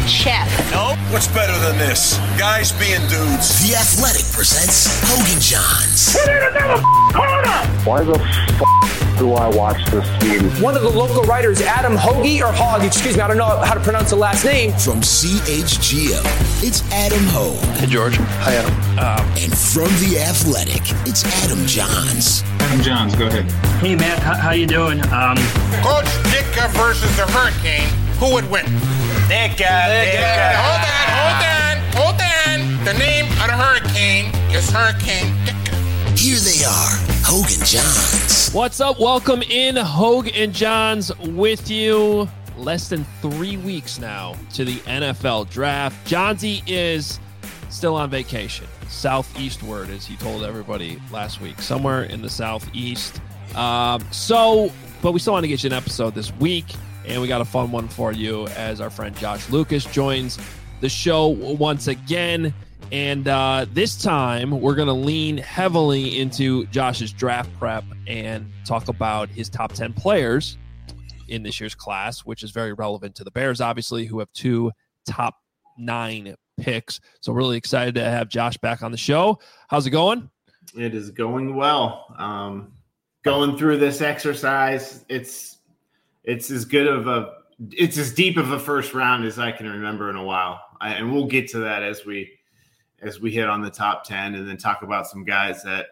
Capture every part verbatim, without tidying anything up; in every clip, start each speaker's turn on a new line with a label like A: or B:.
A: chef.
B: Nope. What's better than this? Guys being dudes.
C: The Athletic presents Hogan Johns.
D: We need another corner!
E: Why the f*** do I watch this team?
F: One of the local writers, Adam Hoagie, or Hogg, excuse me, I don't know how to pronounce the last name.
C: From C H G O, it's Adam Hogue.
G: Hey, George. Hi, Adam.
C: Um, and from The Athletic, it's Adam Johns.
H: Adam Johns, go ahead.
I: Hey, Matt, how, how you doing? Um,
J: Coach Ditka versus the Hurricane, who would win?
B: Ditka, Ditka.
J: Hold on, hold on, hold on. The name of the Hurricane is Hurricane Ditka.
C: Here they are, Hogue and Johns.
K: What's up? Welcome in, Hogue and Johns with you. Less than three weeks now to the N F L draft. Johnsy is still on vacation, southeastward, as he told everybody last week, somewhere in the southeast. Um, so, but we still want to get you an episode this week, and we got a fun one for you as our friend Josh Lucas joins the show once again. And uh, this time, we're going to lean heavily into Josh's draft prep and talk about his top ten players in this year's class, which is very relevant to the Bears, obviously, who have two top nine picks. So really excited to have Josh back on the show. How's it going?
L: It is going well. Um, going through this exercise, it's it's as good of a it's as deep of a first round as I can remember in a while, I, and we'll get to that as we as we hit on the top ten, and then talk about some guys that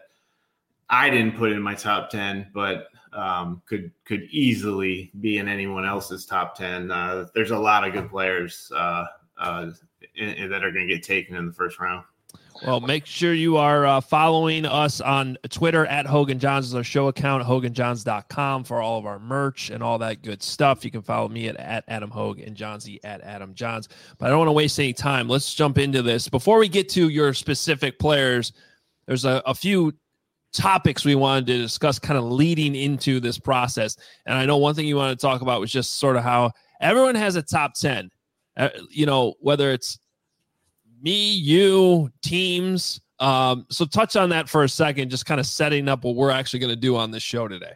L: I didn't put in my top ten, but um, could could easily be in anyone else's top ten. Uh, there's a lot of good players uh, uh, in, in that are going to get taken in the first round.
K: Well, make sure you are uh, following us on Twitter at Hogan Johns is our show account, hogan johns dot com for all of our merch and all that good stuff. You can follow me at, at Adam Hogue and Johnsy at Adam Johns. But I don't want to waste any time. Let's jump into this. Before we get to your specific players, there's a, a few topics we wanted to discuss kind of leading into this process. And I know one thing you wanted to talk about was just sort of how everyone has a top ten, uh, you know, whether it's me, you, teams. Um, so touch on that for a second, just kind of setting up what we're actually going to do on this show today.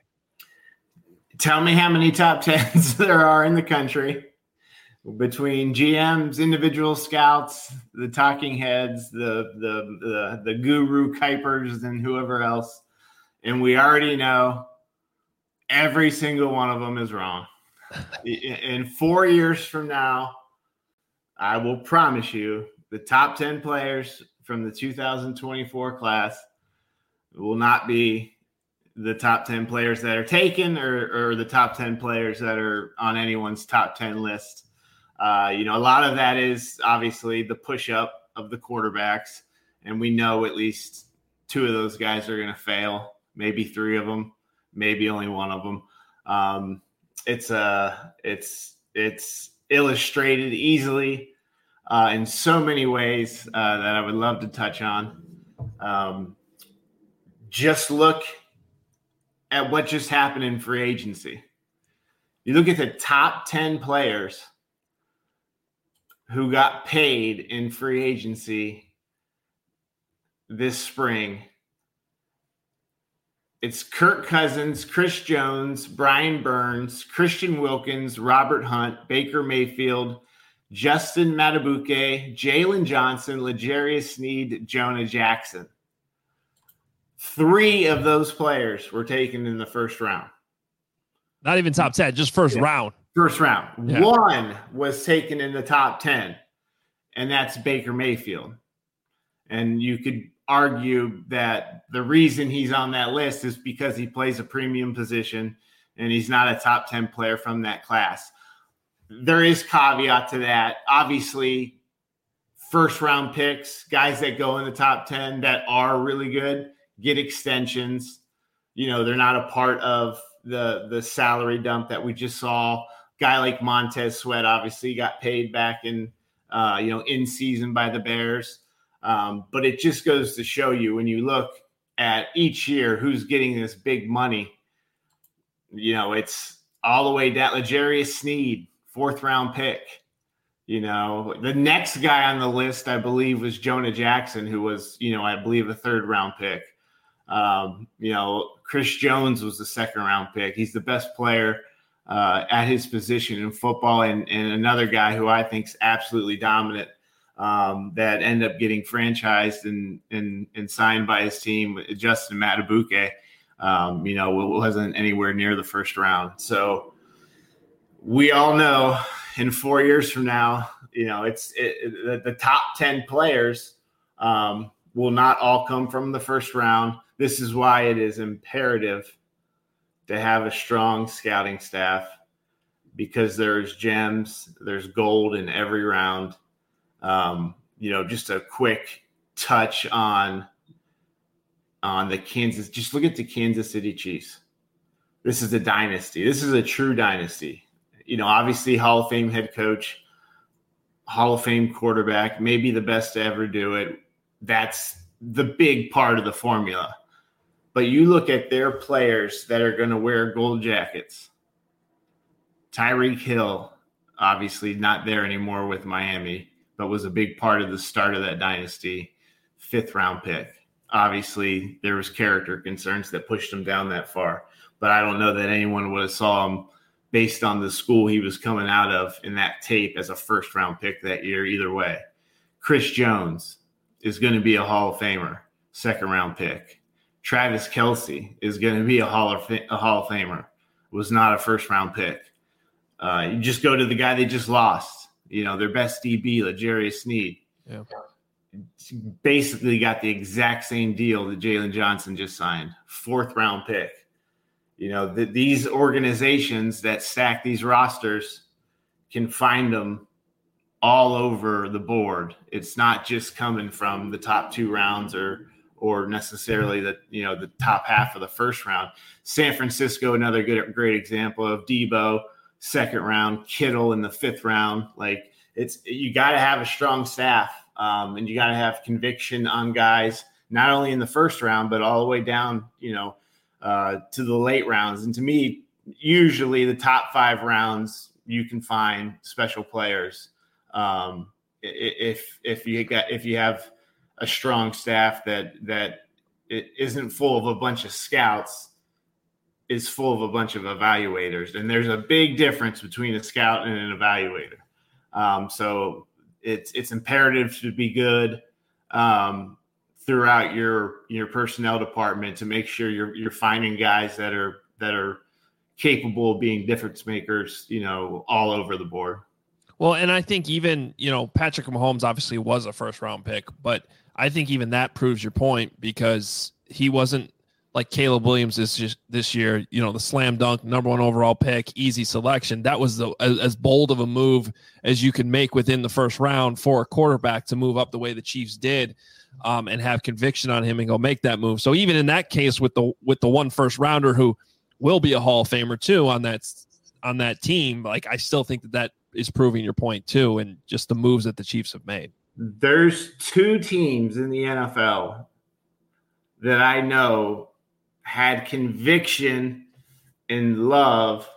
L: Tell me how many top tens there are in the country between G Ms, individual scouts, the talking heads, the the the, the guru Kuipers, and whoever else. And we already know every single one of them is wrong. In four years from now, I will promise you, the top ten players from the two thousand twenty-four class will not be the top ten players that are taken or, or the top ten players that are on anyone's top ten list. Uh, you know, a lot of that is obviously the push-up of the quarterbacks, and we know at least two of those guys are going to fail, maybe three of them, maybe only one of them. Um, it's, uh, it's, it's illustrated easily Uh, in so many ways uh, that I would love to touch on. Um, just look at what just happened in free agency. You look at the top ten players who got paid in free agency this spring. It's Kirk Cousins, Chris Jones, Brian Burns, Christian Wilkins, Robert Hunt, Baker Mayfield, Justin Matabuke, Jalen Johnson, L'Jarius Sneed, Jonah Jackson. Three of those players were taken in the first round.
K: Not even top ten, just first yeah. round.
L: First round.
K: Yeah.
L: One was taken in the top ten, and that's Baker Mayfield. And you could argue that the reason he's on that list is because he plays a premium position, and he's not a top ten player from that class. There is caveat to that. Obviously, first round picks, guys that go in the top ten that are really good, get extensions. You know, they're not a part of the, the salary dump that we just saw. Guy like Montez Sweat obviously got paid back in, uh, you know, in season by the Bears. Um, but it just goes to show you when you look at each year who's getting this big money, you know, it's all the way down. L'Jarius Sneed, fourth round pick. You know, the next guy on the list, I believe, was Jonah Jackson, who was, you know, I believe a third round pick. Um, you know, Chris Jones was the second round pick. He's the best player uh, at his position in football, and, and another guy who I think is absolutely dominant um, that ended up getting franchised and, and, and signed by his team, Justin Matabuke, um, you know, wasn't anywhere near the first round. So we all know in four years from now, you know, it's it, it, the top ten players um, will not all come from the first round. This is why it is imperative to have a strong scouting staff, because there's gems, there's gold in every round. Um, you know, just a quick touch on on the Kansas. Just look at the Kansas City Chiefs. This is a dynasty. This is a true dynasty. You know, obviously Hall of Fame head coach, Hall of Fame quarterback, maybe the best to ever do it. That's the big part of the formula. But you look at their players that are going to wear gold jackets. Tyreek Hill, obviously not there anymore with Miami, but was a big part of the start of that dynasty. Fifth round pick. Obviously, there was character concerns that pushed him down that far. But I don't know that anyone would have saw him based on the school he was coming out of in that tape as a first round pick that year either way. Chris Jones is going to be a Hall of Famer, second round pick. Travis Kelce is going to be a Hall of a Hall of Famer. Was not a first round pick. Uh, you just go to the guy they just lost. You know, their best D B, L'Jarius Sneed.
K: Yeah.
L: Basically got the exact same deal that Jalen Johnson just signed. Fourth round pick. You know, the, these organizations that stack these rosters can find them all over the board. It's not just coming from the top two rounds or or necessarily the, you know, the top half of the first round. San Francisco, another good, great example of Debo, second round, Kittle in the fifth round. Like, it's, you got to have a strong staff um, and you got to have conviction on guys, not only in the first round, but all the way down, you know, uh, to the late rounds. And to me, usually the top five rounds, you can find special players. Um, if, if you got, if you have a strong staff that that it isn't full of a bunch of scouts, is full of a bunch of evaluators. And there's a big difference between a scout and an evaluator. Um, so it's it's imperative to be good um, throughout your your personnel department to make sure you're you're finding guys that are that are capable of being difference makers, you know, all over the board.
K: Well, and I think even, you know, Patrick Mahomes obviously was a first round pick, but I think even that proves your point, because he wasn't like Caleb Williams is just this year, you know, the slam dunk, number one overall pick, easy selection. That was the, as, as bold of a move as you can make within the first round for a quarterback to move up the way the Chiefs did um, and have conviction on him and go make that move. So even in that case with the, with the one first rounder who will be a Hall of Famer too on that, on that team, like I still think that that is proving your point too. And just the moves that the Chiefs have made.
L: There's two teams in the N F L that I know had conviction and love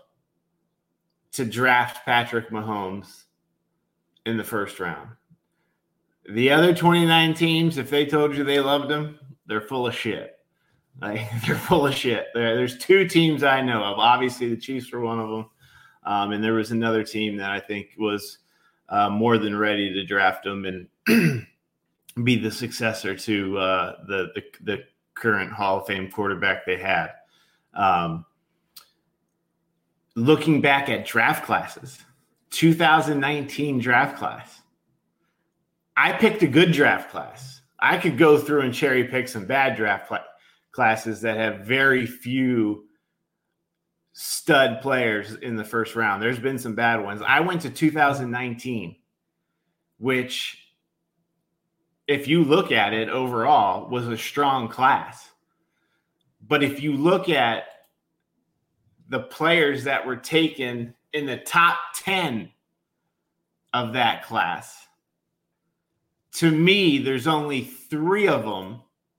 L: to draft Patrick Mahomes in the first round. The other twenty-nine teams, if they told you they loved him, they're full of shit. Like, they're full of shit. There, there's two teams I know of. Obviously, the Chiefs were one of them. Um, and there was another team that I think was uh, more than ready to draft him and be the successor to uh, the, the the current Hall of Fame quarterback they had. Um, looking back at draft classes, two thousand nineteen draft class, I picked a good draft class. I could go through and cherry pick some bad draft cl- classes that have very few stud players in the first round. There's been some bad ones. I went to two thousand nineteen, which, if you look at it overall, was a strong class. But if you look at the players that were taken in the top ten of that class, to me, there's only three of them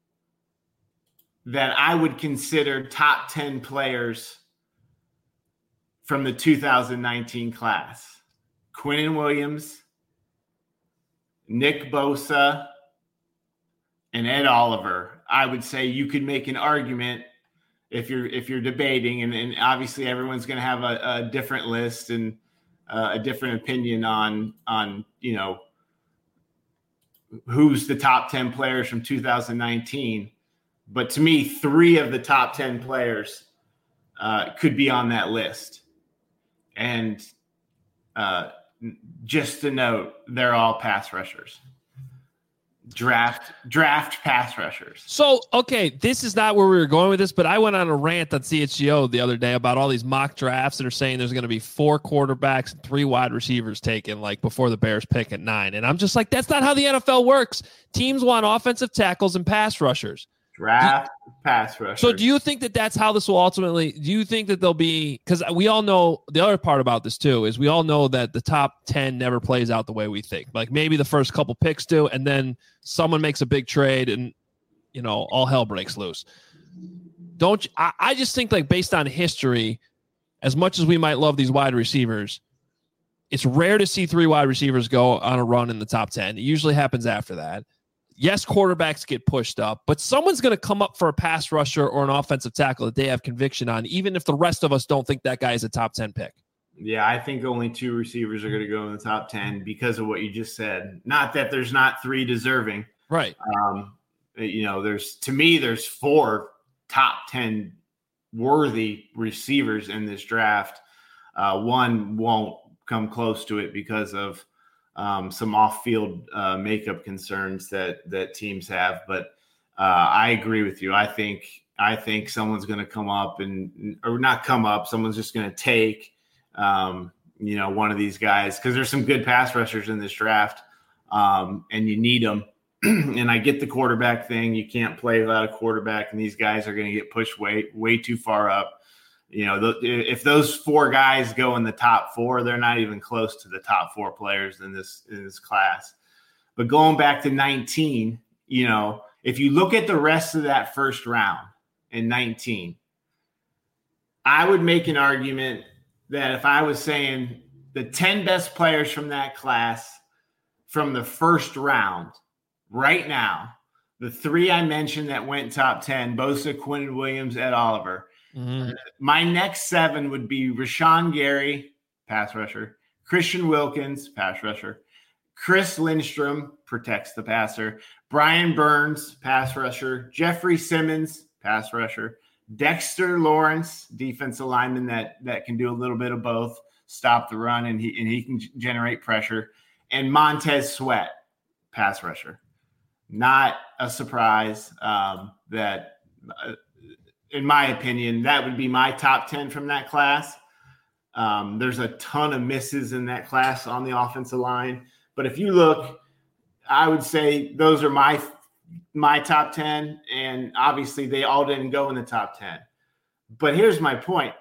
L: that I would consider top ten players from the two thousand nineteen class. Quinnen Williams, Nick Bosa, and Ed Oliver. I would say you could make an argument if you're if you're debating, and, and obviously everyone's going to have a, a different list and uh, a different opinion on on you know who's the top ten players from two thousand nineteen. But to me, three of the top ten players uh, could be on that list. And uh, just to note, they're all pass rushers. Draft draft pass rushers.
K: So, okay, this is not where we were going with this, but I went on a rant on C H G O the other day about all these mock drafts that are saying there's going to be four quarterbacks and three wide receivers taken like before the Bears pick at nine. And I'm just like, that's not how the N F L works. Teams want offensive tackles and pass rushers.
L: Draft do, pass rushers.
K: So do you think that that's how this will ultimately, do you think that there'll be, because we all know, the other part about this too is we all know that the top ten never plays out the way we think. Like maybe the first couple picks do, and then someone makes a big trade and, you know, all hell breaks loose. Don't you, I, I just think like based on history, as much as we might love these wide receivers, it's rare to see three wide receivers go on a run in the top ten. It usually happens after that. Yes, quarterbacks get pushed up, but someone's going to come up for a pass rusher or an offensive tackle that they have conviction on, even if the rest of us don't think that guy is a top ten pick.
L: Yeah, I think only two receivers are going to go in the top ten because of what you just said. Not that there's not three deserving.
K: Right.
L: Um, you know, there's to me, there's four top ten worthy receivers in this draft. Uh, one won't come close to it because of Um, some off-field uh, makeup concerns that that teams have, but uh, I agree with you. I think I think someone's going to come up and or not come up. Someone's just going to take, um, you know, one of these guys because there's some good pass rushers in this draft, um, and you need them. And I get the quarterback thing. You can't play without a quarterback, and these guys are going to get pushed way way too far up. You know, th- if those four guys go in the top four, they're not even close to the top four players in this in this class. But going back to nineteen, you know, if you look at the rest of that first round in nineteen, I would make an argument that if I was saying the ten best players from that class from the first round right now, the three I mentioned that went top ten, Bosa, Quinn Williams, Ed Oliver. Mm-hmm. My next seven would be Rashawn Gary, pass rusher, Christian Wilkins, pass rusher, Chris Lindstrom, protects the passer, Brian Burns, pass rusher, Jeffrey Simmons, pass rusher, Dexter Lawrence, defensive lineman that that can do a little bit of both, stop the run, and he and he can generate pressure, and Montez Sweat, pass rusher. Not a surprise um, that. Uh, In my opinion, that would be my top ten from that class. Um, there's a ton of misses in that class on the offensive line. But if you look, I would say those are my my top ten. And obviously, they all didn't go in the top ten. But here's my point.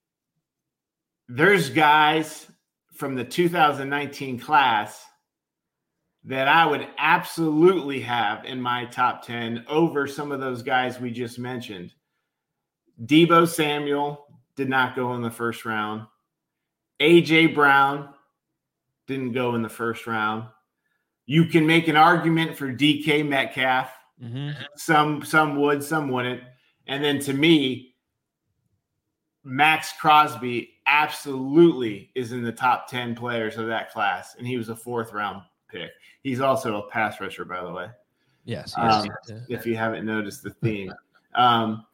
L: There's guys from the two thousand nineteen class that I would absolutely have in my top ten over some of those guys we just mentioned. Deebo Samuel did not go in the first round. A J Brown didn't go in the first round. You can make an argument for D K Metcalf. Mm-hmm. Some some would, some wouldn't. And then to me, Max Crosby absolutely is in the top ten players of that class, and he was a fourth round pick. He's also a pass rusher, by the way.
K: Yes.
L: Um, yes. If you haven't noticed the theme. Um,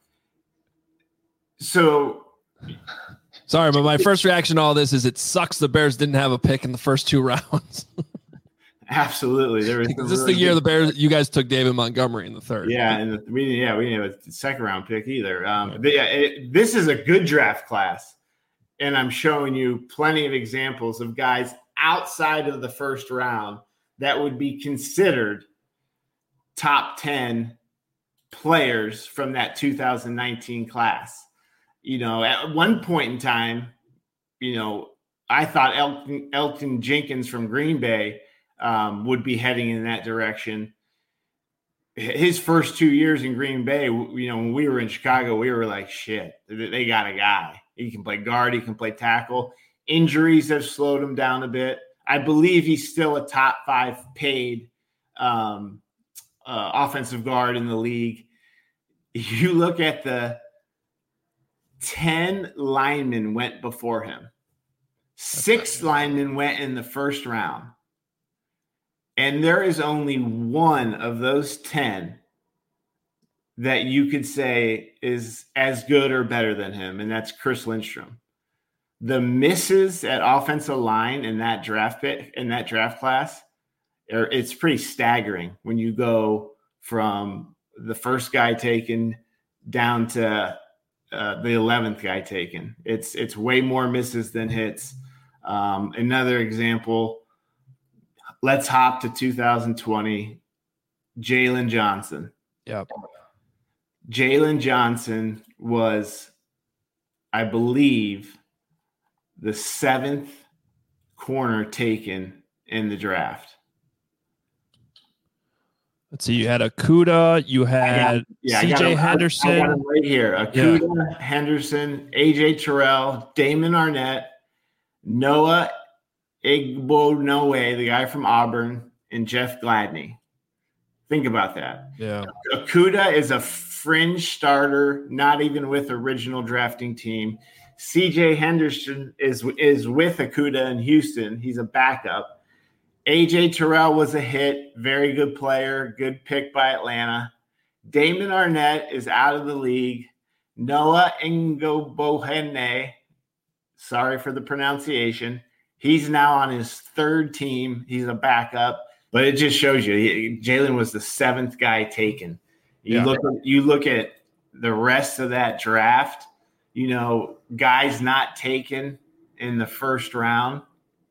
L: So,
K: sorry, but my first reaction to all this is it sucks the Bears didn't have a pick in the first two rounds.
L: Absolutely, there was.
K: Is this really the year good... the Bears? You guys took David Montgomery in the third.
L: Yeah, and the, we yeah we didn't have a second round pick either. Um, but yeah, it, this is a good draft class, and I'm showing you plenty of examples of guys outside of the first round that would be considered top ten players from that two thousand nineteen class. You know, at one point in time, you know, I thought Elton, Elton Jenkins from Green Bay um, would be heading in that direction. His first two years in Green Bay, you know, when we were in Chicago, we were like, shit, they got a guy. He can play guard, he can play tackle. Injuries have slowed him down a bit. I believe he's still a top five paid um, uh, offensive guard in the league. You look at the ten linemen went before him. Six linemen went in the first round. And there is only one of those ten that you could say is as good or better than him, and that's Chris Lindstrom. The misses at offensive line in that draft pick, in that draft class, are, it's pretty staggering when you go from the first guy taken down to uh, the eleventh guy taken. It's it's way more misses than hits. Um, another example, let's hop to two thousand twenty, Jalen Johnson.
K: Yep.
L: Jalen Johnson was, I believe, the seventh corner taken in the draft.
K: Let's see. You had Okudah. You had
L: yeah,
K: C J Henderson.
L: I got him right here. Okudah, yeah. Henderson, A J Terrell, Damon Arnett, Noah Igbonowe, the guy from Auburn, and Jeff Gladney. Think about that.
K: Yeah.
L: Okudah is a fringe starter, not even with original drafting team. C J Henderson is is with Okudah in Houston. He's a backup. A J Terrell was a hit, very good player, good pick by Atlanta. Damon Arnett is out of the league. Noah Igbonowe, sorry for the pronunciation, he's now on his third team. He's a backup, but it just shows you he, Jalen was the seventh guy taken. You
K: yeah.
L: look at, you look at the rest of that draft, you know, guys not taken in the first round.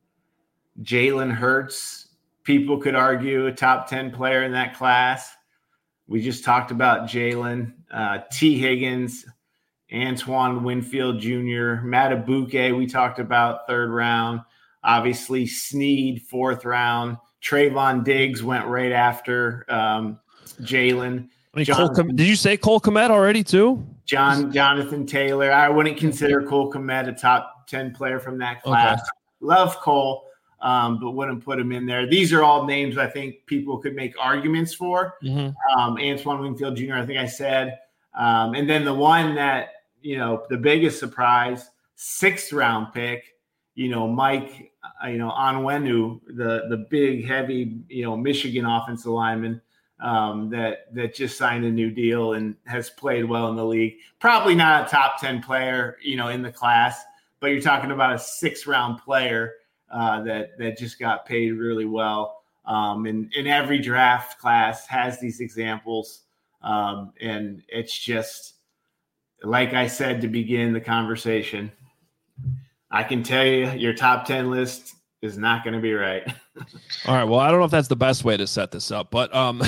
L: Jalen Hurts, people could argue a top ten player in that class. We just talked about Jalen, uh, T. Higgins, Antoine Winfield Junior, Matabuke, we talked about third round. Obviously, Snead, fourth round. Trayvon Diggs went right after um, Jalen.
K: I mean, Cole Com- did you say Cole Kmet already too?
L: John Jonathan Taylor. I wouldn't consider Cole Kmet a top ten player from that class. Okay. Love Cole, um, but wouldn't put him in there. These are all names I think people could make arguments for. Mm-hmm. Um, Antoine Winfield Junior, I think I said. Um, and then the one that, you know, the biggest surprise, sixth round pick, you know, Mike, uh, you know, Onwenu, the the big, heavy, you know, Michigan offensive lineman um, that that just signed a new deal and has played well in the league. Probably not a top ten player, you know, in the class, but you're talking about a sixth round player uh, that that just got paid really well. Um, and, and every draft class has these examples, um, and it's just like I said to begin the conversation. I can tell you your top ten list is not going to be right.
K: All right. Well, I don't know if that's the best way to set this up, but um,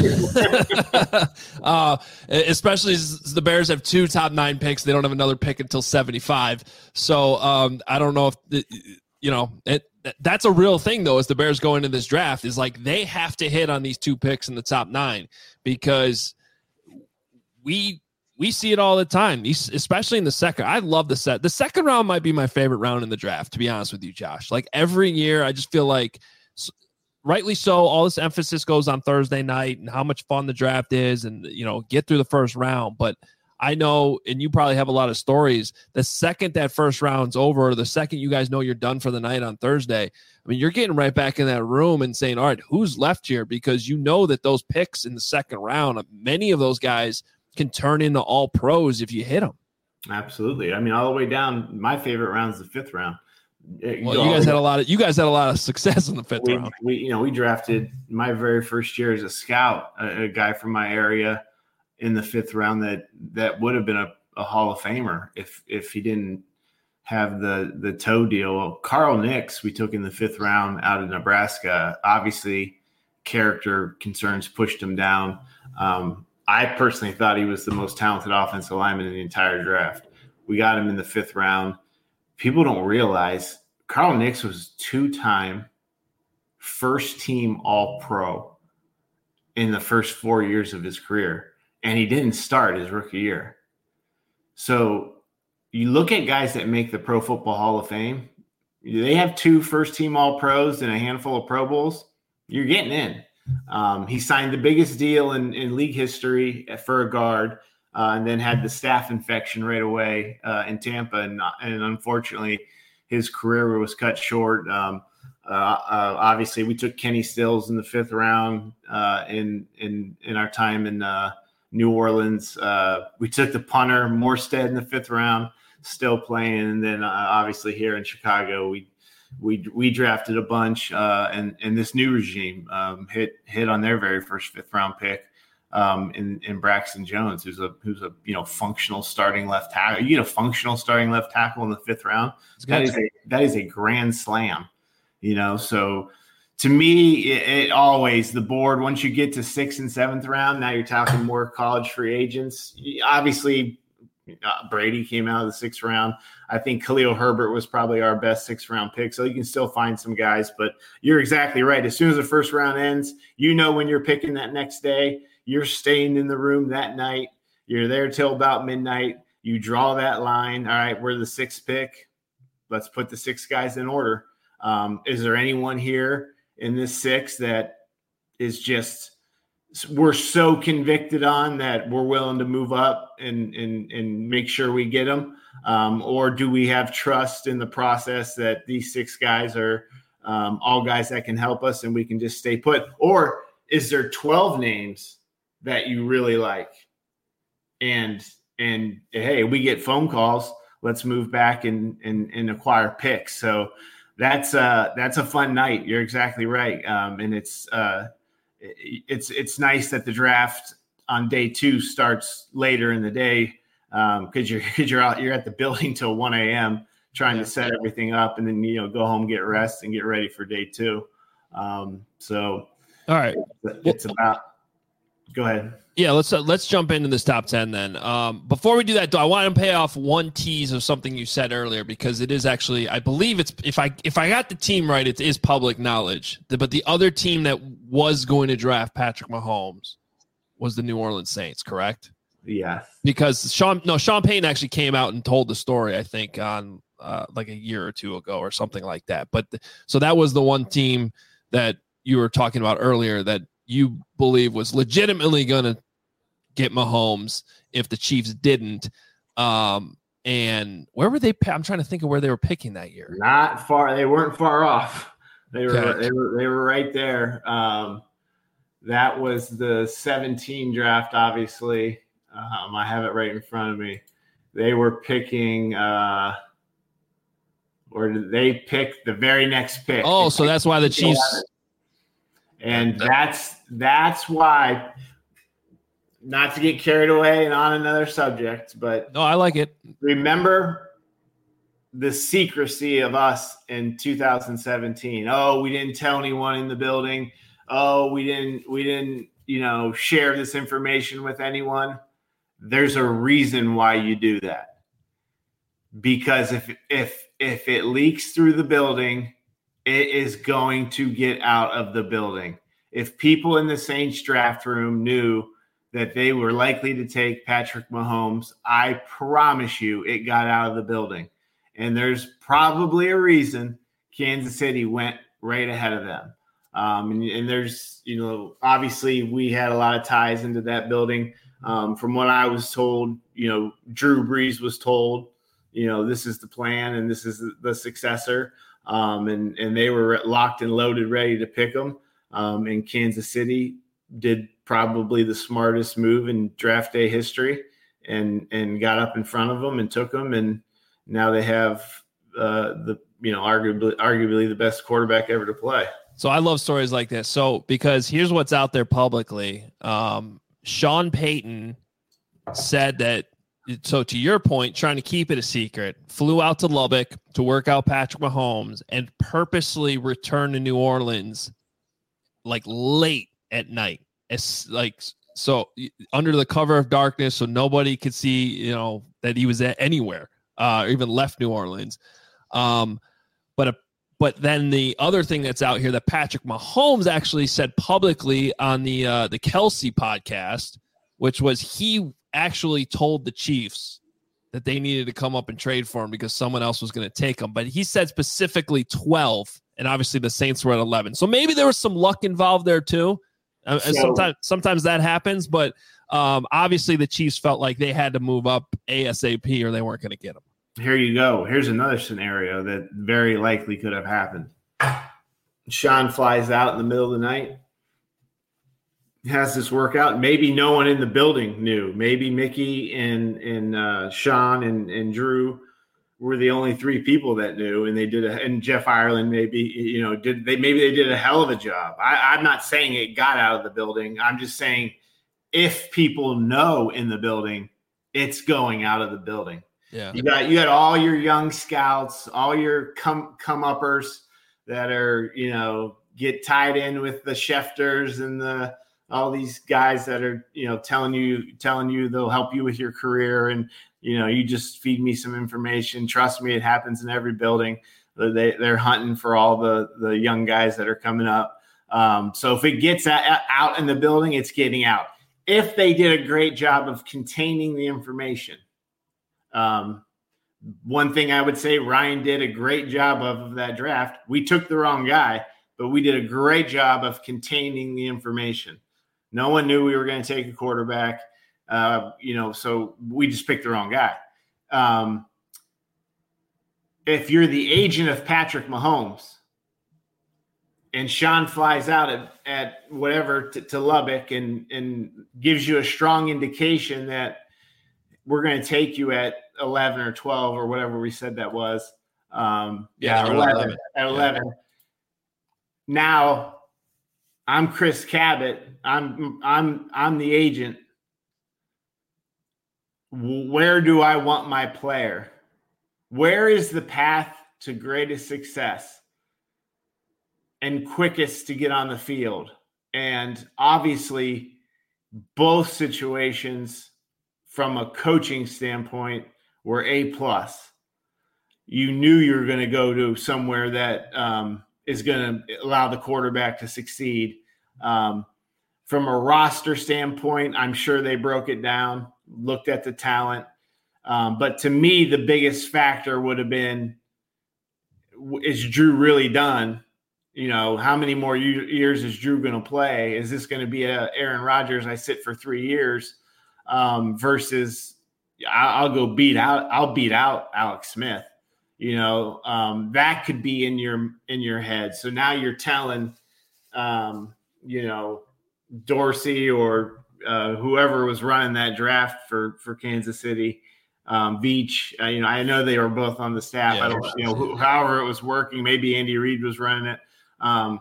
K: uh, especially as the Bears have two top nine picks. They don't have another pick until seventy-five. So um, I don't know if, the, you know, it, that's a real thing, though, as the Bears go into this draft is like they have to hit on these two picks in the top nine because we – we see it all the time, especially in the second. I love the set. The second round might be my favorite round in the draft, to be honest with you, Josh. Like every year, I just feel like, rightly so, all this emphasis goes on Thursday night and how much fun the draft is and, you know, get through the first round. But I know, and you probably have a lot of stories, the second that first round's over, or the second you guys know you're done for the night on Thursday, I mean, you're getting right back in that room and saying, all right, who's left here? Because you know that those picks in the second round, many of those guys can turn into all pros if you hit them.
L: Absolutely. I mean, all the way down, my favorite round is the fifth round.
K: Well, you, know, you guys had a lot of you guys had a lot of success in the fifth
L: we,
K: round.
L: We, you know, we drafted my very first year as a scout, a, a guy from my area in the fifth round that that would have been a, a Hall of Famer if if he didn't have the the toe deal. Well, Carl Nix, we took in the fifth round out of Nebraska. Obviously, character concerns pushed him down. Um, I personally thought he was the most talented offensive lineman in the entire draft. We got him in the fifth round. People don't realize Carl Nix was two-time first-team All-Pro in the first four years of his career, and he didn't start his rookie year. So you look at guys that make the Pro Football Hall of Fame, they have two first-team All-Pros and a handful of Pro Bowls. You're getting in. Um, he signed the biggest deal in, in league history for a guard. uh, and then had the staph infection right away uh, in Tampa. And, and unfortunately, his career was cut short. Um, uh, uh, obviously, we took Kenny Stills in the fifth round uh, in, in, in our time in uh, New Orleans. Uh, we took the punter, Morstead, in the fifth round, still playing. And then uh, obviously here in Chicago, we we we drafted a bunch, uh, and and this new regime um, hit hit on their very first fifth round pick um, in in Braxton Jones, who's a who's a you know functional starting left tackle. You get a functional starting left tackle in the fifth round. That is a that is a grand slam, you know. So to me, it, it always the board. Once you get to sixth and seventh round, now you're talking more college free agents. Obviously, uh, Brady came out of the sixth round. I think Khalil Herbert was probably our best sixth round pick. So you can still find some guys, but you're exactly right. As soon as the first round ends, you know when you're picking that next day, you're staying in the room that night. You're there till about midnight. You draw that line. All right, we're the sixth pick. Let's put the six guys in order. Um, is there anyone here in this six that is just we're so convicted on that we're willing to move up and and and make sure we get them? Um, or do we have trust in the process that these six guys are um, all guys that can help us and we can just stay put? Or is there twelve names that you really like? And and hey, we get phone calls. Let's move back and and, and acquire picks. So that's uh that's a fun night. You're exactly right. Um, and it's uh it's it's nice that the draft on day two starts later in the day. Um, cause you're, cause you're out, you're at the building till one a.m. trying yeah. to set everything up and then, you know, go home, get rest and get ready for day two. Um, so,
K: all right,
L: it's, it's about, go ahead.
K: Yeah. Let's, uh, let's jump into this top ten then. Um, before we do that though, I want to pay off one tease of something you said earlier, because it is actually, I believe it's, if I, if I got the team right, it is public knowledge, but the other team that was going to draft Patrick Mahomes was the New Orleans Saints, correct?
L: Yeah,
K: because Sean, no, Sean Payton actually came out and told the story, I think, on uh, like a year or two ago or something like that. But the, so that was the one team that you were talking about earlier that you believe was legitimately going to get Mahomes if the Chiefs didn't. Um, and where were they? I'm trying to think of where they were picking that year.
L: Not far. They weren't far off. They were.
K: Okay.
L: They were. They were right there. Um, that was the seventeen draft, obviously. Um, I have it right in front of me. They were picking, uh, or did they pick the very next pick?
K: Oh, so that's why the Chiefs.
L: And that's that's why. Not to get carried away and on another subject, but
K: no, I like it.
L: Remember the secrecy of us in two thousand seventeen. Oh, we didn't tell anyone in the building. Oh, we didn't. We didn't. You know, share this information with anyone. There's a reason why you do that. Because if if if it leaks through the building, it is going to get out of the building. If people in the Saints draft room knew that they were likely to take Patrick Mahomes, I promise you it got out of the building. And there's probably a reason Kansas City went right ahead of them. Um, and, and there's, you know, obviously we had a lot of ties into that building. Um, from what I was told, you know, Drew Brees was told, you know, this is the plan and this is the successor. Um, and, and they were locked and loaded, ready to pick them. Um, and Kansas City did probably the smartest move in draft day history and, and got up in front of them and took them. And now they have uh, the, you know, arguably, arguably the best quarterback ever to play.
K: So I love stories like this. So, because here's what's out there publicly. Um, Sean Payton said that, so to your point, trying to keep it a secret, flew out to Lubbock to work out Patrick Mahomes and purposely returned to New Orleans like late at night. It's like, so under the cover of darkness, so nobody could see, you know, that he was at anywhere, uh, or even left New Orleans. Um, but a, But then the other thing that's out here that Patrick Mahomes actually said publicly on the uh, the Kelsey podcast, which was he actually told the Chiefs that they needed to come up and trade for him because someone else was going to take him. But he said specifically twelve, and obviously the Saints were at eleven. So maybe there was some luck involved there too. Uh,
L: So-
K: sometimes, sometimes that happens, but um, obviously the Chiefs felt like they had to move up ASAP or they weren't going to get him.
L: Here you go. Here's another scenario that very likely could have happened. Sean flies out in the middle of the night, has this workout. Maybe no one in the building knew. Maybe Mickey and and uh, Sean and, and Drew were the only three people that knew, and they did a, and Jeff Ireland maybe, you know, did they maybe they did a hell of a job. I, I'm not saying it got out of the building. I'm just saying if people know in the building, it's going out of the building.
K: Yeah.
L: You got you got all your young scouts, all your come come uppers that are, you know, get tied in with the Schefters and the all these guys that are, you know, telling you telling you they'll help you with your career, and you know, you just feed me some information. Trust me, it happens in every building. They they're hunting for all the the young guys that are coming up. Um, so if it gets a, out in the building, it's getting out. If they did a great job of containing the information. Um, one thing I would say Ryan did a great job of, of that draft. We took the wrong guy, but we did a great job of containing the information. No one knew we were going to take a quarterback, uh, you know, so we just picked the wrong guy. Um, if you're the agent of Patrick Mahomes and Sean flies out at, at whatever to, to Lubbock and, and gives you a strong indication that we're going to take you at eleven or twelve or whatever we said that was. Um, yeah,
K: Yeah,
L: eleven,
K: eleven.
L: at eleven. Now I'm Chris Cabot. I'm, I'm, I'm the agent. Where do I want my player? Where is the path to greatest success and quickest to get on the field? And obviously both situations from a coaching standpoint were A plus. You knew you were going to go to somewhere that um, is going to allow the quarterback to succeed. Um, from a roster standpoint, I'm sure they broke it down, looked at the talent. Um, but to me, the biggest factor would have been, is Drew really done? You know, how many more years is Drew going to play? Is this going to be a Aaron Rodgers, I sit for three years? Um, versus I'll go beat out, I'll beat out Alex Smith, you know, um, that could be in your, in your head. So now you're telling, um, you know, Dorsey or uh, whoever was running that draft for, for Kansas City, um, Veach, uh, you know, I know they were both on the staff.
K: Yeah,
L: I don't, you know, who, however it was working, maybe Andy Reid was running it. Um,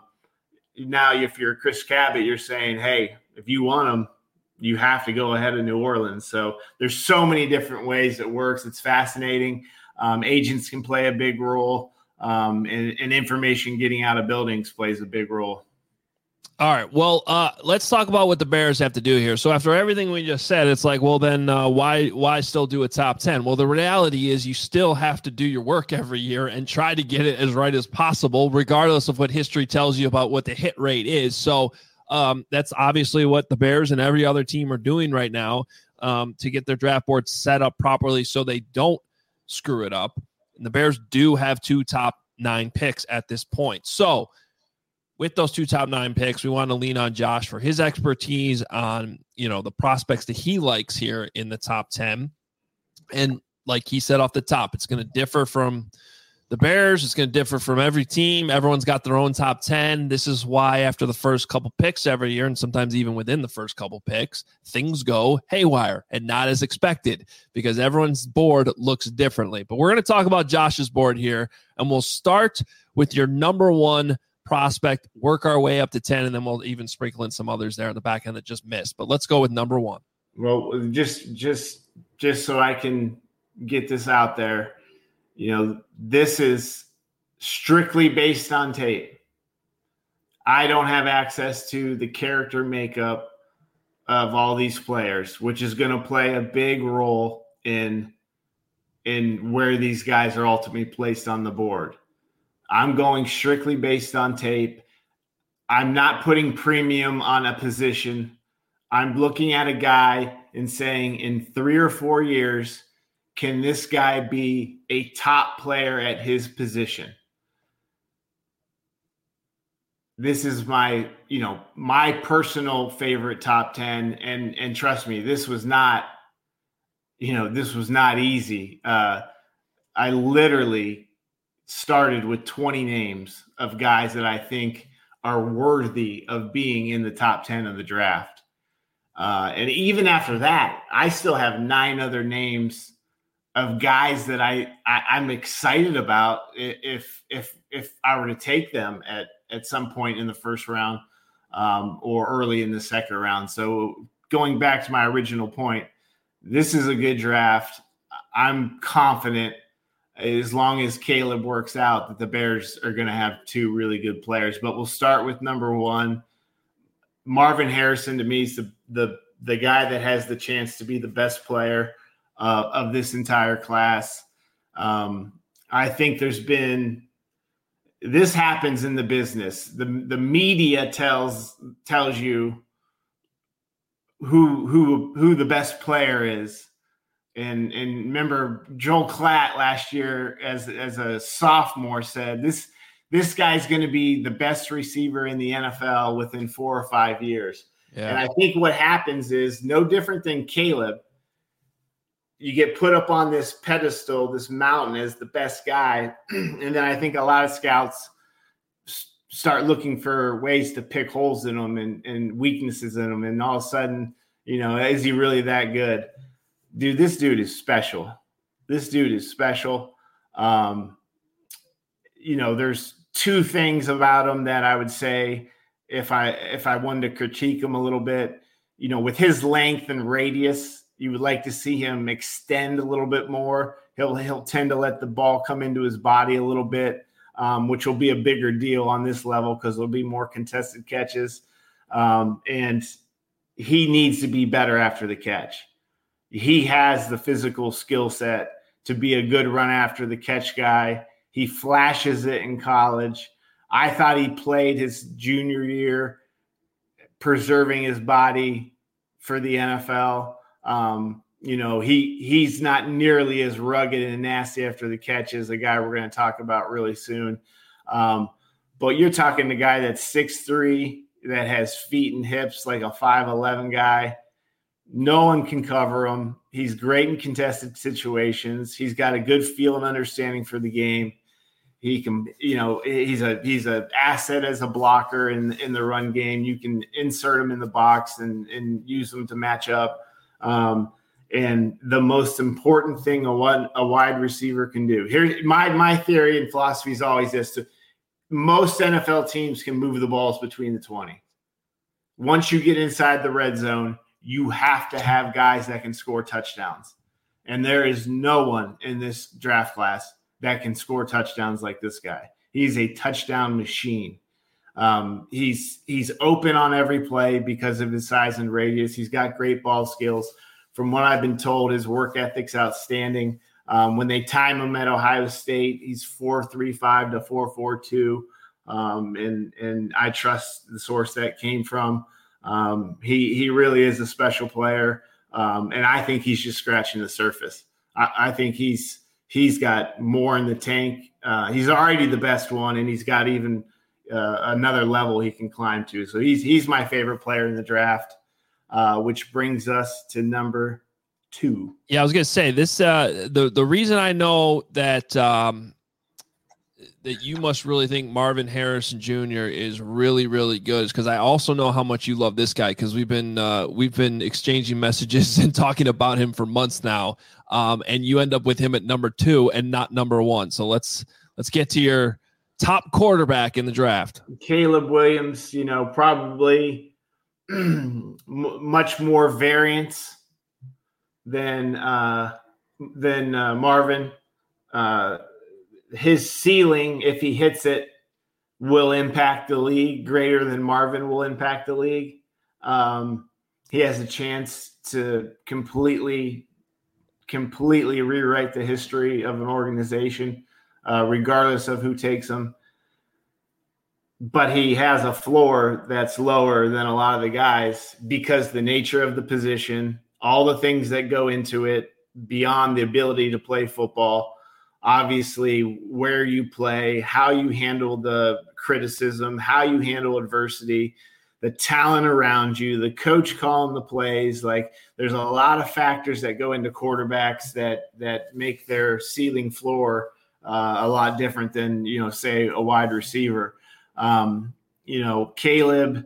L: now if you're Chris Cabot, you're saying, hey, if you want them, you have to go ahead of New Orleans. So there's so many different ways it works. It's fascinating. Um, agents can play a big role, um, and, and information getting out of buildings plays a big role.
K: All right. Well, uh, let's talk about what the Bears have to do here. So after everything we just said, it's like, well, then uh, why why still do a top ten? Well, the reality is you still have to do your work every year and try to get it as right as possible, regardless of what history tells you about what the hit rate is. So um, that's obviously what the Bears and every other team are doing right now um, to get their draft board set up properly so they don't screw it up. And the Bears do have two top nine picks at this point. So with those two top nine picks, we want to lean on Josh for his expertise on, you know, the prospects that he likes here in the top ten. And like he said off the top, it's going to differ from the Bears. It's going to differ from every team. Everyone's got their own top ten. This is why after the first couple picks every year, and sometimes even within the first couple picks, things go haywire and not as expected because everyone's board looks differently. But we're going to talk about Josh's board here, and we'll start with your number one prospect, work our way up to ten, and then we'll even sprinkle in some others there in the back end that just missed. But let's go with number one.
L: Well, just just just so I can get this out there, you know, this is strictly based on tape. I don't have access to the character makeup of all these players, which is going to play a big role in in where these guys are ultimately placed on the board. I'm going strictly based on tape. I'm not putting premium on a position. I'm looking at a guy and saying in three or four years, can this guy be a top player at his position? this is my, you know, my personal favorite top ten. And, and trust me, this was not, you know, this was not easy. Uh, I literally started with twenty names of guys that I think are worthy of being in the top ten of the draft. Uh, and even after that, I still have nine other names of guys that I, I I'm excited about if, if, if I were to take them at, at some point in the first round um, or early in the second round. So going back to my original point, this is a good draft. I'm confident, as long as Caleb works out, that the Bears are going to have two really good players. But we'll start with number one. Marvin Harrison, to me, is the the, the guy that has the chance to be the best player uh, of this entire class. Um, I think there's been – this happens in the business. The, the media tells tells you who who who the best player is. And and remember, Joel Klatt last year as as a sophomore said, this this guy's going to be the best receiver in the N F L within four or five years. Yeah. And I think what happens is no different than Caleb. You get put up on this pedestal, this mountain as the best guy. And then I think a lot of scouts start looking for ways to pick holes in them and, and weaknesses in them. And all of a sudden, you know, is he really that good? Dude, this dude is special. This dude is special. Um, you know, there's two things about him that I would say if I if I wanted to critique him a little bit. You know, with his length and radius, you would like to see him extend a little bit more. He'll he'll tend to let the ball come into his body a little bit, um, which will be a bigger deal on this level because there'll be more contested catches. Um, and he needs to be better after the catch. He has the physical skill set to be a good run after the catch guy. He flashes it in college. I thought he played his junior year preserving his body for the N F L. Um, you know, he he's not nearly as rugged and nasty after the catch as the guy we're going to talk about really soon. Um, but you're talking the guy that's six three, that has feet and hips like a five eleven guy. No one can cover him. He's great in contested situations. He's got a good feel and understanding for the game. He can, you know, he's a he's an asset as a blocker in in the run game. You can insert him in the box and and use him to match up. Um, and the most important thing a one a wide receiver can do. Here, my my theory and philosophy is always this: to most N F L teams can move the balls between the twenty. Once you get inside the red zone, you have to have guys that can score touchdowns. And there is no one in this draft class that can score touchdowns like this guy. He's a touchdown machine. Um, he's he's open on every play because of his size and radius. He's got great ball skills. From what I've been told, his work ethic's outstanding. Um, when they time him at Ohio State, he's four three five to four four two. Um, and, and I trust the source that came from. Um, he he really is a special player, um, and I think he's just scratching the surface. I, I think he's he's got more in the tank. Uh, he's already the best one, and he's got even uh, another level he can climb to. So he's he's my favorite player in the draft, uh, which brings us to number two. Yeah,
K: I was gonna say this. Uh, the the reason I know that. Um, that you must really think Marvin Harrison Junior is really, really good is because I also know how much you love this guy because we've been uh, we've been exchanging messages and talking about him for months now, um, and you end up with him at number two and not number one. So let's let's get to your top quarterback in the draft.
L: Caleb Williams, you know, probably m- much more variance than uh, than uh, Marvin. Uh, His ceiling, if he hits it, will impact the league greater than Marvin will impact the league. Um, he has a chance to completely, completely rewrite the history of an organization, uh, regardless of who takes him. But he has a floor that's lower than a lot of the guys because the nature of the position, all the things that go into it beyond the ability to play football. obviously where you play, how you handle the criticism, how you handle adversity, the talent around you, the coach calling the plays. Like, there's a lot of factors that go into quarterbacks that that make their ceiling floor uh, a lot different than, you know, say a wide receiver. Um, you know, Caleb,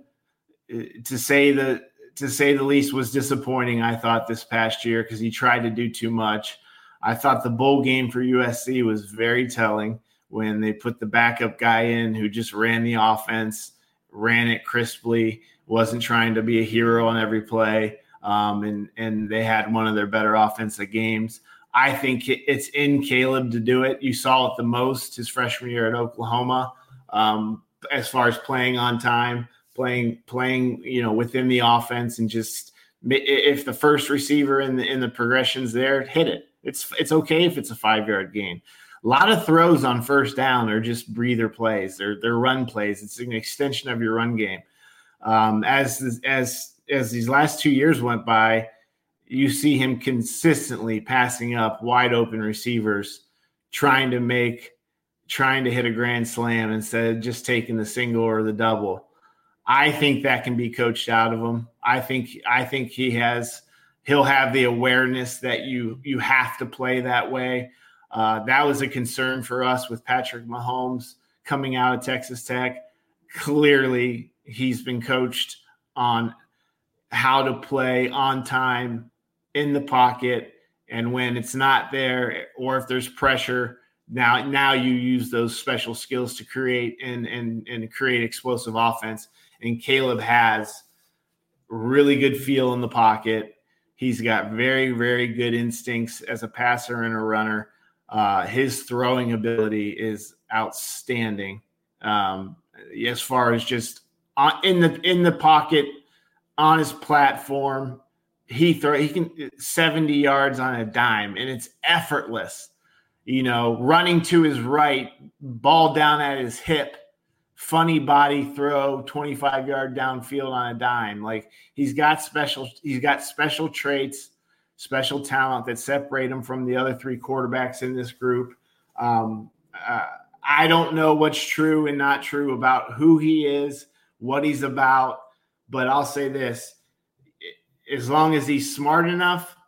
L: to say the to say the least, was disappointing, I thought, this past year because he tried to do too much. I thought the bowl game for U S C was very telling when they put the backup guy in who just ran the offense, ran it crisply, wasn't trying to be a hero on every play, um, and, and they had one of their better offensive games. I think it's in Caleb to do it. You saw it the most his freshman year at Oklahoma, um, as far as playing on time, playing, playing, you know, within the offense, and just if the first receiver in the in the progressions there, hit it. It's it's okay if it's a five-yard gain. A lot of throws on first down are just breather plays. They're they're run plays. It's an extension of your run game. Um, as as as these last two years went by, you see him consistently passing up wide open receivers, trying to make trying to hit a grand slam instead of just taking the single or the double. I think that can be coached out of him. I think I think he has. He'll have the awareness that you you have to play that way. Uh, that was a concern for us with Patrick Mahomes coming out of Texas Tech. Clearly, he's been coached on how to play on time in the pocket, and when it's not there or if there's pressure, now now you use those special skills to create and and and create explosive offense. And Caleb has really good feel in the pocket. He's got very, very good instincts as a passer and a runner. Uh, his throwing ability is outstanding. Um, as far as just on, in the in the pocket, on his platform, he throw he can seventy yards on a dime, and it's effortless. You know, running to his right, ball down at his hip. Funny body throw, twenty-five yard downfield on a dime. Like, he's got special, he's got special traits, special talent that separate him from the other three quarterbacks in this group. Um, uh, I don't know what's true and not true about who he is, what he's about, but I'll say this: as long as he's smart enough,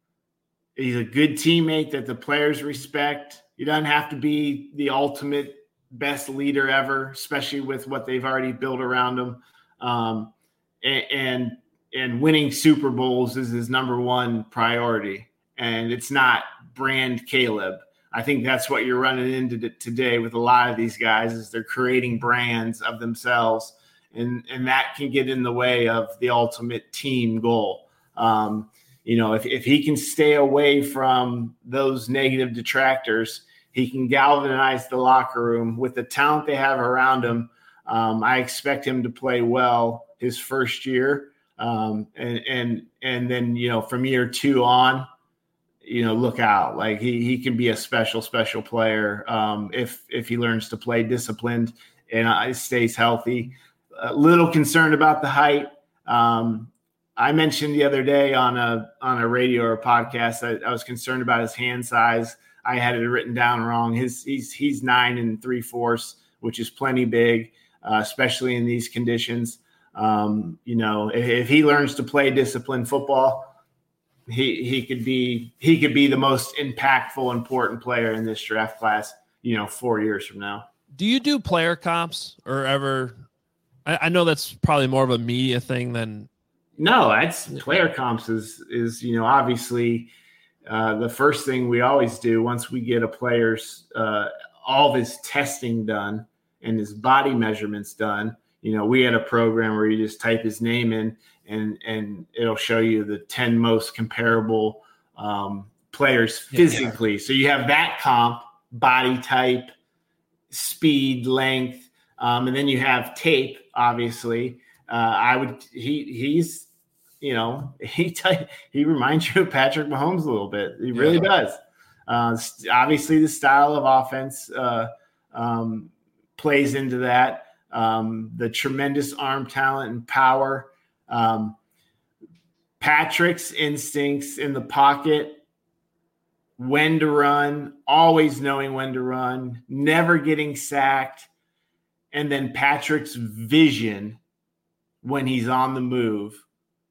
L: he's a good teammate that the players respect. He doesn't have to be the ultimate best leader ever, especially with what they've already built around him. Um, and, and and winning Super Bowls is his number one priority. And it's not brand Caleb. I think that's what you're running into today with a lot of these guys, is they're creating brands of themselves. And, and that can get in the way of the ultimate team goal. Um, you know, if, if he can stay away from those negative detractors, he can galvanize the locker room with the talent they have around him. Um, I expect him to play well his first year. Um, and, and, and then, you know, from year two on, you know, look out. Like, he, he can be a special, special player um, if, if he learns to play disciplined and uh, stays healthy. A little concerned about the height. Um, I mentioned the other day on a, on a radio or a podcast that I was concerned about his hand size. I had it written down wrong. His he's he's nine and three fourths, which is plenty big, uh, especially in these conditions. Um, you know, if, if he learns to play disciplined football, he he could be he could be the most impactful, important player in this draft class. You know, four years from now.
K: Do you do player comps or ever? I, I know that's probably more of a media thing than.
L: No, that's player comps is is you know obviously. Uh, the first thing we always do once we get a player's uh, all of his testing done and his body measurements done, you know, we had a program where you just type his name in and and it'll show you the ten most comparable um, players physically. Yeah. So you have that comp, body type, speed, length, um, and then you have tape. Obviously, uh, I would he he's. You know, he t- he reminds you of Patrick Mahomes a little bit. He really yeah. does. Uh, obviously, the style of offense uh, um, plays into that. Um, the tremendous arm talent and power. Um, Patrick's instincts in the pocket when to run, always knowing when to run, never getting sacked, and then Patrick's vision when he's on the move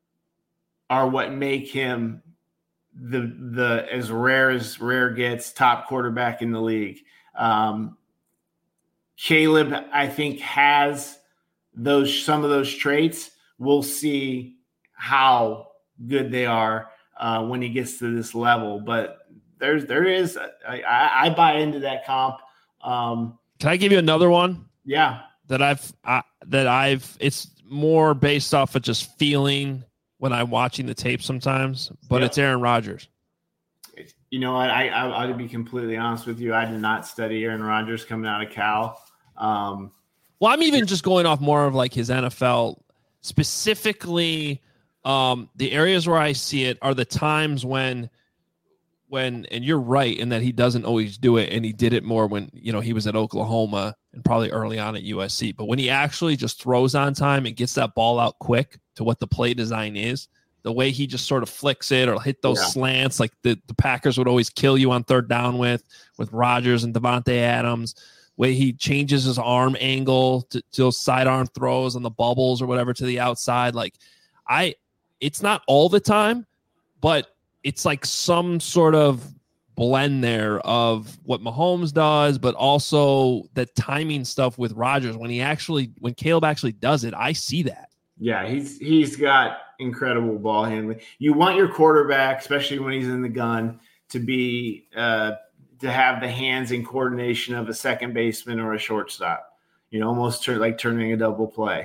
L: are what make him the the as rare as rare gets top quarterback in the league. Um, Caleb, I think, has those some of those traits. We'll see how good they are uh, when he gets to this level. But there's there is I, I buy into that comp. Um,
K: Can I give you another one?
L: Yeah,
K: that I've I, that I've it's more based off of just feeling when I'm watching the tape sometimes, but
L: yeah.
K: It's Aaron Rodgers.
L: You know what? I, I I'll be completely honest with you. I did not study Aaron Rodgers coming out of Cal. Um,
K: well, I'm even just going off more of like his N F L, specifically um, the areas where I see it are the times when, when, and you're right in that he doesn't always do it. And he did it more when, you know, he was at Oklahoma and probably early on at U S C, but when he actually just throws on time and gets that ball out quick to what the play design is, the way he just sort of flicks it or hit those yeah. slants, like the, the Packers would always kill you on third down with, with Rodgers and Devontae Adams, way he changes his arm angle to, to those sidearm throws on the bubbles or whatever to the outside. Like I, it's not all the time, but it's like some sort of blend there of what Mahomes does, but also the timing stuff with Rodgers. When he actually, when Caleb actually does it, I see that.
L: Yeah, he's he's got incredible ball handling. You want your quarterback, especially when he's in the gun, to be uh, to have the hands and coordination of a second baseman or a shortstop. You know, almost turn, like turning a double play.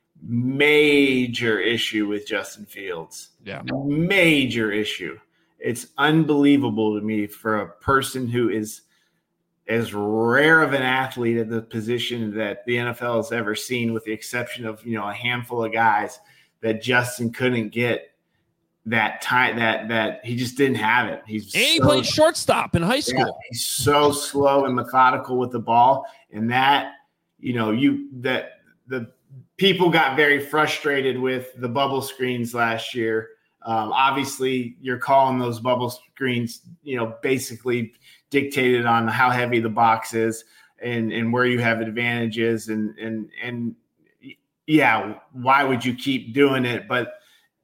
L: Major issue with Justin Fields.
K: Yeah,
L: major issue. It's unbelievable to me for a person who is as rare of an athlete at the position that the N F L has ever seen, with the exception of, you know, a handful of guys, that Justin couldn't get that time, that, that he just didn't have it. He's
K: and he
L: so,
K: played shortstop in high school.
L: Yeah, he's so slow and methodical with the ball. And that, you know, you, that the people got very frustrated with the bubble screens last year. Um, obviously you're calling those bubble screens, you know, basically dictated on how heavy the box is and, and where you have advantages. And, and, and yeah, why would you keep doing it? But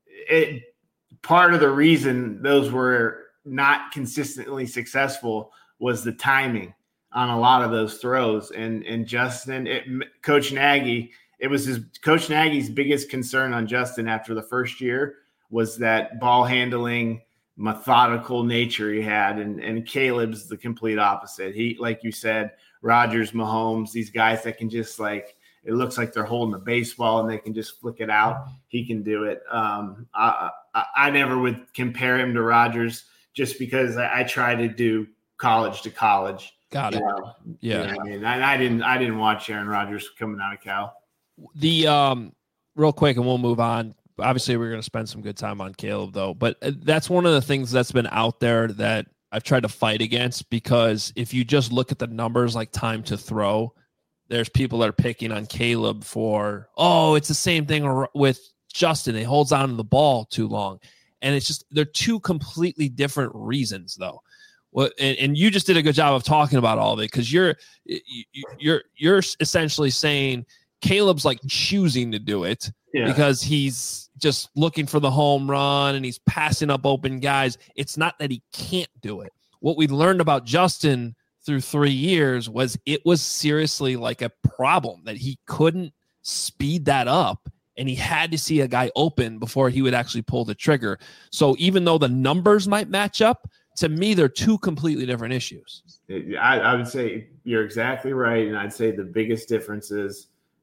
L: it, part of the reason those were not consistently successful was the timing on a lot of those throws. And, and Justin, it, Coach Nagy, it was his Coach Nagy's biggest concern on Justin after the first year was that ball handling, methodical nature he had. And, and Caleb's the complete opposite. He, like you said, Rodgers, Mahomes, these guys that can just like, it looks like they're holding a baseball and they can just flick it out. He can do it. Um, I, I, I never would compare him to Rodgers just because I, I try to do college to college.
K: Got it.
L: Know?
K: Yeah.
L: You know what I mean, I, I didn't, I didn't watch Aaron Rodgers coming out of Cal.
K: The um, real quick, and we'll move on. Obviously, we're going to spend some good time on Caleb, though. But that's one of the things that's been out there that I've tried to fight against, because if you just look at the numbers like time to throw, there's people that are picking on Caleb for, oh, it's the same thing with Justin. He holds on to the ball too long. And it's just, they're two completely different reasons, though. Well, and, and you just did a good job of talking about all of it, because you're you're you're essentially saying Caleb's like choosing to do it yeah. because he's just looking for the home run and he's passing up open guys. It's not that he can't do it. What we learned about Justin through three years was it was seriously like a problem that he couldn't speed that up, and he had to see a guy open before he would actually pull the trigger. So even though the numbers might match up, to me, they're two completely different issues.
L: I, I would say you're exactly right. And I'd say the biggest difference is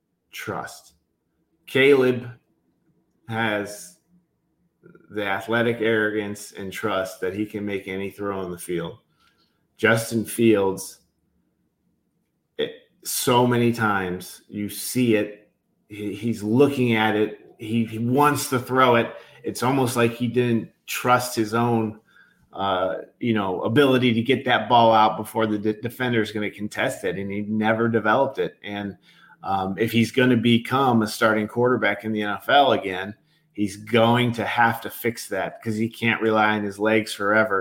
L: trust. Caleb has the athletic arrogance and trust that he can make any throw on the field. Justin Fields, it, so many times you see it. He, he's looking at it. He, he wants to throw it. It's almost like he didn't trust his own Uh, you know, ability to get that ball out before the de- defender is going to contest it, and he never developed it. And um, if he's going to become a starting quarterback in the N F L again, he's going to have to fix that, because he can't rely on his legs forever.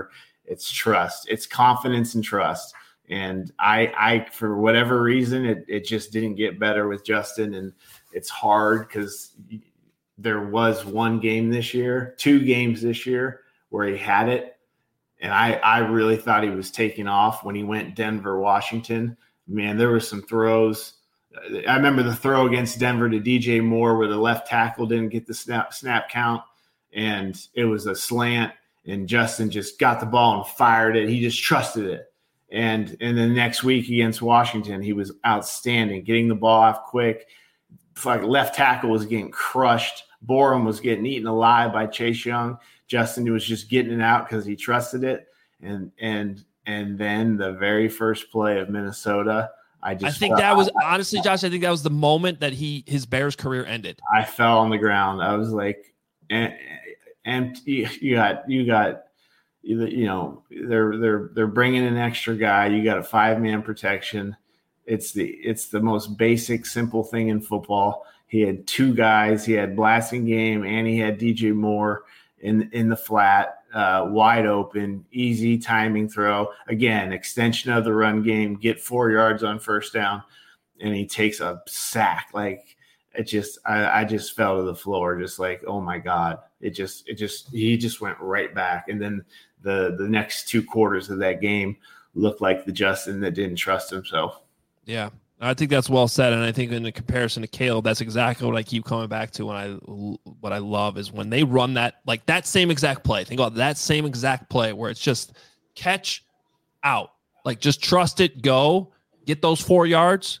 L: It's trust. It's confidence and trust. And I, I for whatever reason, it, it just didn't get better with Justin. And it's hard because there was one game this year, two games this year where he had it. And I, I really thought he was taking off when he went Denver, Washington. Man, there were some throws. I remember the throw against Denver to D J Moore where the left tackle didn't get the snap snap count, and it was a slant, and Justin just got the ball and fired it. He just trusted it. And and the next week against Washington, he was outstanding, getting the ball off quick. Like left tackle was getting crushed. Borum was getting eaten alive by Chase Young. Justin was just getting it out because he trusted it. And and and then the very first play of Minnesota, I just
K: I think that was honestly, Josh, I think that was the moment that he his Bears career ended.
L: I fell on the ground. I was like, and, and you got you got you know they're they're they're bringing an extra guy. You got a five man protection. It's the it's the most basic, simple thing in football. He had two guys. He had Blasingame and he had D J Moore in in the flat, uh, wide open, easy timing throw. Again, extension of the run game. Get four yards on first down, and he takes a sack. Like it just, I, I just fell to the floor. Just like, oh my God! It just, it just, he just went right back. And then the the next two quarters of that game looked like the Justin that didn't trust himself.
K: Yeah, I think that's well said, and I think in the comparison to Caleb, that's exactly what I keep coming back to. When I what I love is when they run that like that same exact play. Think about that same exact play where it's just catch out, like just trust it, go get those four yards.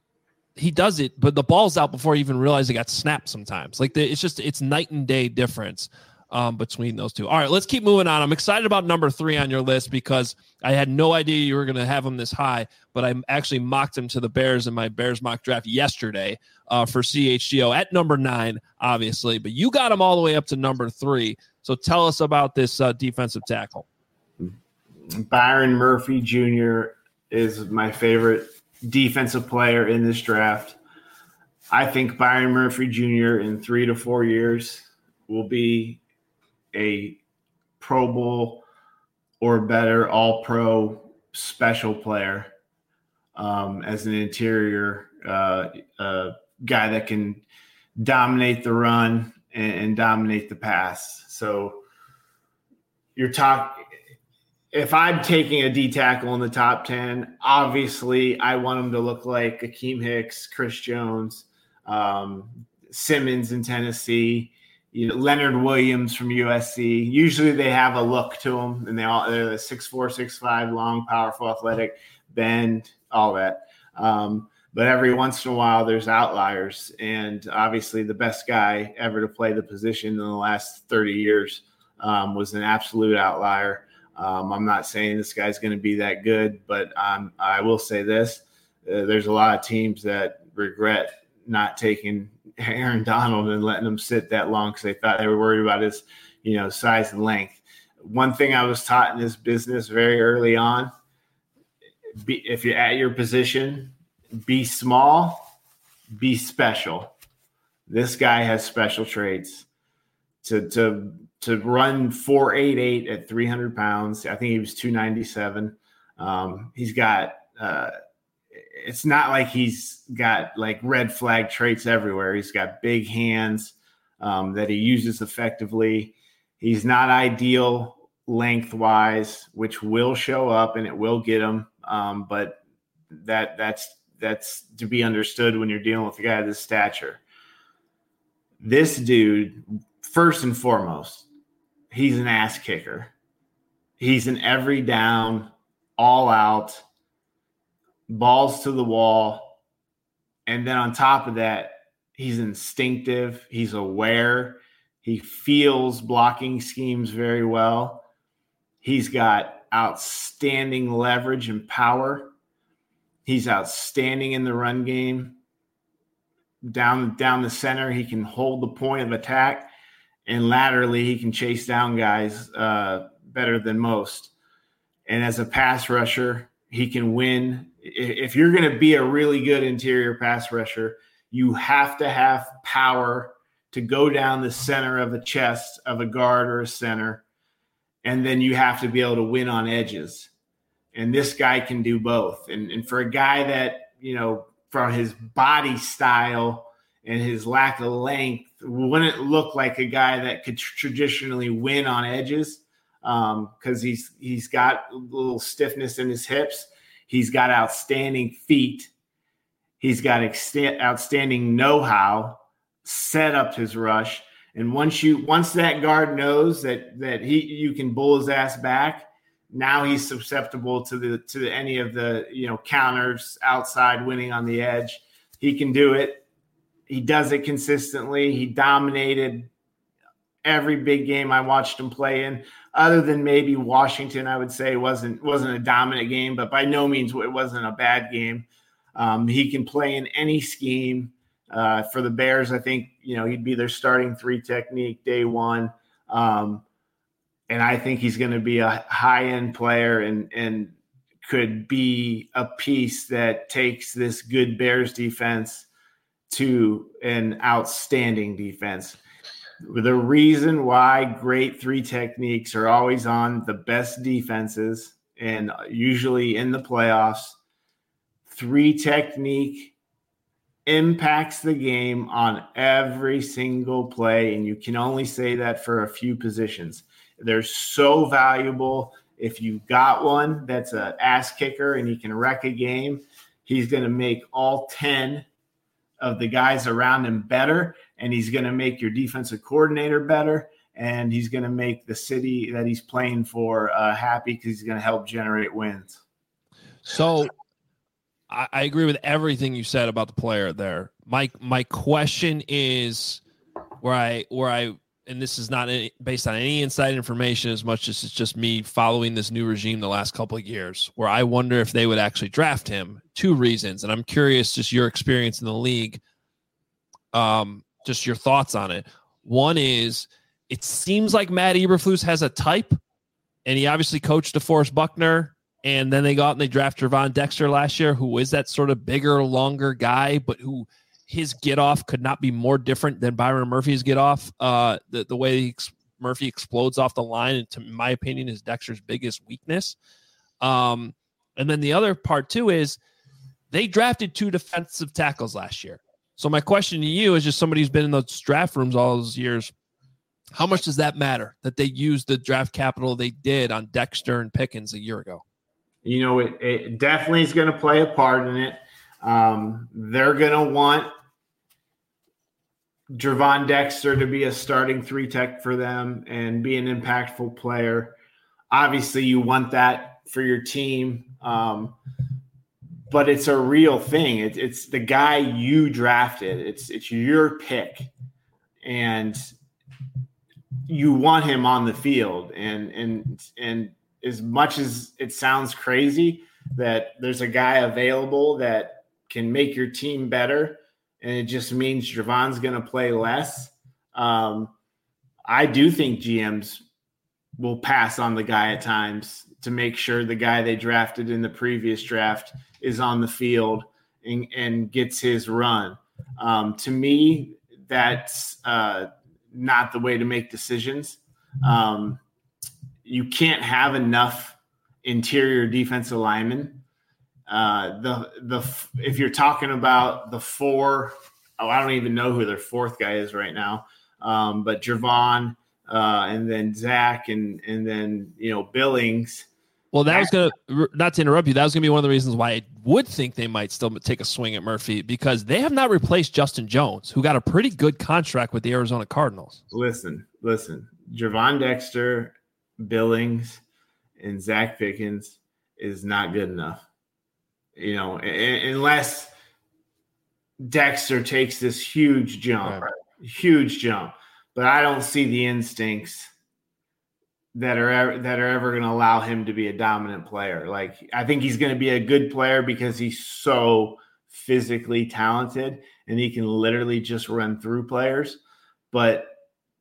K: He does it, but the ball's out before he even realized it got snapped. Sometimes, like the, it's just it's night and day difference um, between those two. All right, let's keep moving on. I'm excited about number three on your list because I had no idea you were going to have him this high, but I actually mocked him to the Bears in my Bears mock draft yesterday uh, for C H G O at number nine, obviously, but you got him all the way up to number three. So tell us about this uh, defensive tackle.
L: Byron Murphy Junior is my favorite defensive player in this draft. I think Byron Murphy Junior in three to four years will be a Pro Bowl or better all-pro special player um, as an interior uh, uh, guy that can dominate the run and, and dominate the pass. So you're talking – if I'm taking a D tackle in the top ten, obviously I want him to look like Akeem Hicks, Chris Jones, um, Simmons in Tennessee, you know, Leonard Williams from U S C. Usually they have a look to them, and they all they're six four, six five, long, powerful, athletic, bend, all that. Um, but every once in a while there's outliers, and obviously the best guy ever to play the position in the last thirty years um, was an absolute outlier. Um, I'm not saying this guy's going to be that good, but um, I will say this. Uh, there's a lot of teams that regret not taking Aaron Donald and letting him sit that long because they thought they were worried about his, you know, size and length. One thing I was taught in this business very early on, be, if you're at your position, be small, be special. This guy has special traits. To to to run four eight eight at three hundred pounds. I think he was two ninety-seven. Um, he's got uh, – it's not like he's got like red flag traits everywhere. He's got big hands um, that he uses effectively. He's not ideal lengthwise, which will show up and it will get him. Um, but that that's that's to be understood when you're dealing with a guy of this stature. This dude – first and foremost, he's an ass kicker. He's an every down, all out, balls to the wall. And then on top of that, he's instinctive. He's aware. He feels blocking schemes very well. He's got outstanding leverage and power. He's outstanding in the run game. Down, down the center, he can hold the point of attack. And laterally, he can chase down guys uh, better than most. And as a pass rusher, he can win. If you're going to be a really good interior pass rusher, you have to have power to go down the center of the chest of a guard or a center and then you have to be able to win on edges. And this guy can do both. And, and for a guy that, you know, from his body style and his lack of length, wouldn't look like a guy that could traditionally win on edges because um, he's he's got a little stiffness in his hips. He's got outstanding feet. He's got ext- outstanding know-how, set up his rush. And once you once that guard knows that that he you can bull his ass back, now he's susceptible to the to the, any of the you know counters outside winning on the edge. He can do it. He does it consistently. He dominated every big game I watched him play in, other than maybe Washington. I would say wasn't wasn't a dominant game, but by no means it wasn't a bad game. Um, he can play in any scheme. Uh, for the Bears, I think, you know, he'd be their starting three technique day one. Um, and I think he's going to be a high-end player and, and could be a piece that takes this good Bears defense to an outstanding defense. The reason why great three techniques are always on the best defenses and usually in the playoffs, three technique impacts the game on every single play, and you can only say that for a few positions. They're so valuable. If you got one that's an ass kicker and he can wreck a game, he's going to make all ten of the guys around him better, and he's going to make your defensive coordinator better, and he's going to make the city that he's playing for uh, happy because he's going to help generate wins.
K: So I, I agree with everything you said about the player there. My my question is where I where I and this is not any, based on any inside information as much as it's just me following this new regime the last couple of years, where I wonder if they would actually draft him. Two reasons, and I'm curious, just your experience in the league, um, just your thoughts on it. One is, it seems like Matt Eberflus has a type, and he obviously coached DeForest Buckner, and then they go out and they draft Gervon Dexter last year, who is that sort of bigger, longer guy, but who his get off could not be more different than Byron Murphy's get off. Uh, the, the way he ex- Murphy explodes off the line, and to in my opinion, is Dexter's biggest weakness. Um, and then the other part too is they drafted two defensive tackles last year. So my question to you is, just somebody who's been in those draft rooms all those years, how much does that matter that they used the draft capital they did on Dexter and Pickens a year ago?
L: You know, it, it definitely is going to play a part in it. Um, they're going to want Gervon Dexter to be a starting three tech for them and be an impactful player. Obviously, you want that for your team, um, but it's a real thing. It, it's the guy you drafted. It's it's your pick, and you want him on the field. And and and as much as it sounds crazy that there's a guy available that can make your team better, and it just means Gervon's going to play less. Um, I do think G Ms will pass on the guy at times to make sure the guy they drafted in the previous draft is on the field and, and gets his run. Um, to me, that's uh, not the way to make decisions. Um, you can't have enough interior defensive linemen. Uh, the the if you're talking about the four, oh, I don't even know who their fourth guy is right now. Um, but Gervon, uh, and then Zach, and and then you know Billings.
K: Well, that was gonna not to interrupt you. That was gonna be one of the reasons why I would think they might still take a swing at Murphy, because they have not replaced Justin Jones, who got a pretty good contract with the Arizona Cardinals.
L: Listen, listen, Gervon Dexter, Billings, and Zach Pickens is not good enough. You know, unless Dexter takes this huge jump, right. huge jump. But I don't see the instincts that are ever, that are ever going to allow him to be a dominant player. Like, I think he's going to be a good player because he's so physically talented and he can literally just run through players. But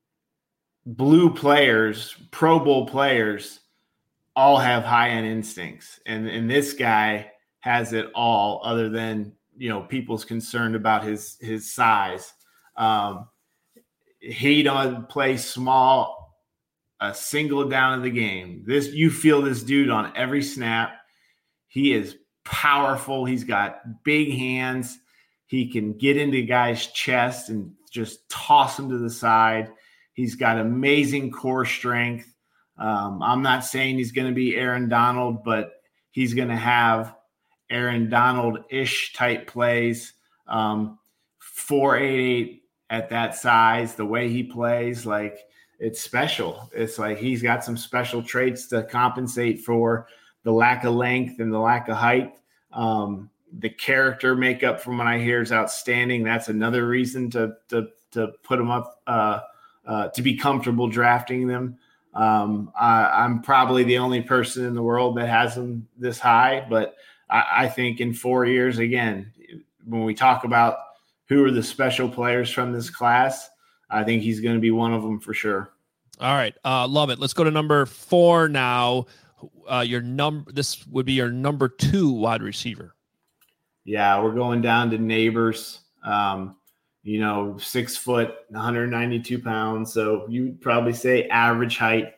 L: blue players, Pro Bowl players, all have high-end instincts. And, and this guy has it all, other than, you know, people's concerned about his, his size. Um, he don't play small a single down of the game. This you feel this dude on every snap. He is powerful. He's got big hands. He can get into guys' chest and just toss them to the side. He's got amazing core strength. Um, I'm not saying he's going to be Aaron Donald, but he's going to have Aaron Donald-ish type plays. Um, four eight eight at that size, the way he plays, like it's special. It's like he's got some special traits to compensate for the lack of length and the lack of height. Um, the character makeup, from what I hear, is outstanding. That's another reason to to to put him up uh, uh, to be comfortable drafting them. Um, I, I'm probably the only person in the world that has him this high, but I, I think in four years, again, when we talk about who are the special players from this class, I think he's going to be one of them for sure.
K: All right. Uh, love it. Let's go to number four now. Uh, your number, this would be your number two wide receiver.
L: Yeah, we're going down to Neighbors. Um, you know, six foot, one hundred ninety-two pounds. So you'd probably say average height.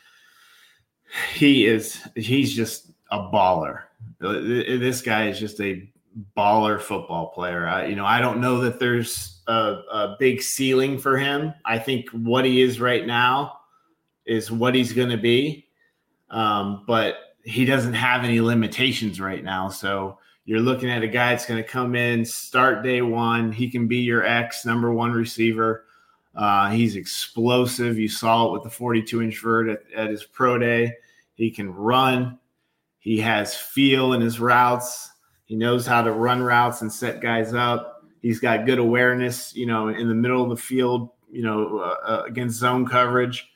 L: He is, he's just a baller. This guy is just a baller football player. I, you know, I don't know that there's a, a big ceiling for him. I think what he is right now is what he's going to be. Um, but he doesn't have any limitations right now. So you're looking at a guy that's going to come in, start day one. He can be your X number one receiver. Uh, he's explosive. You saw it with the forty-two inch vert at, at his pro day. He can run. He has feel in his routes. He knows how to run routes and set guys up. He's got good awareness, you know, in the middle of the field, you know, uh, uh, against zone coverage.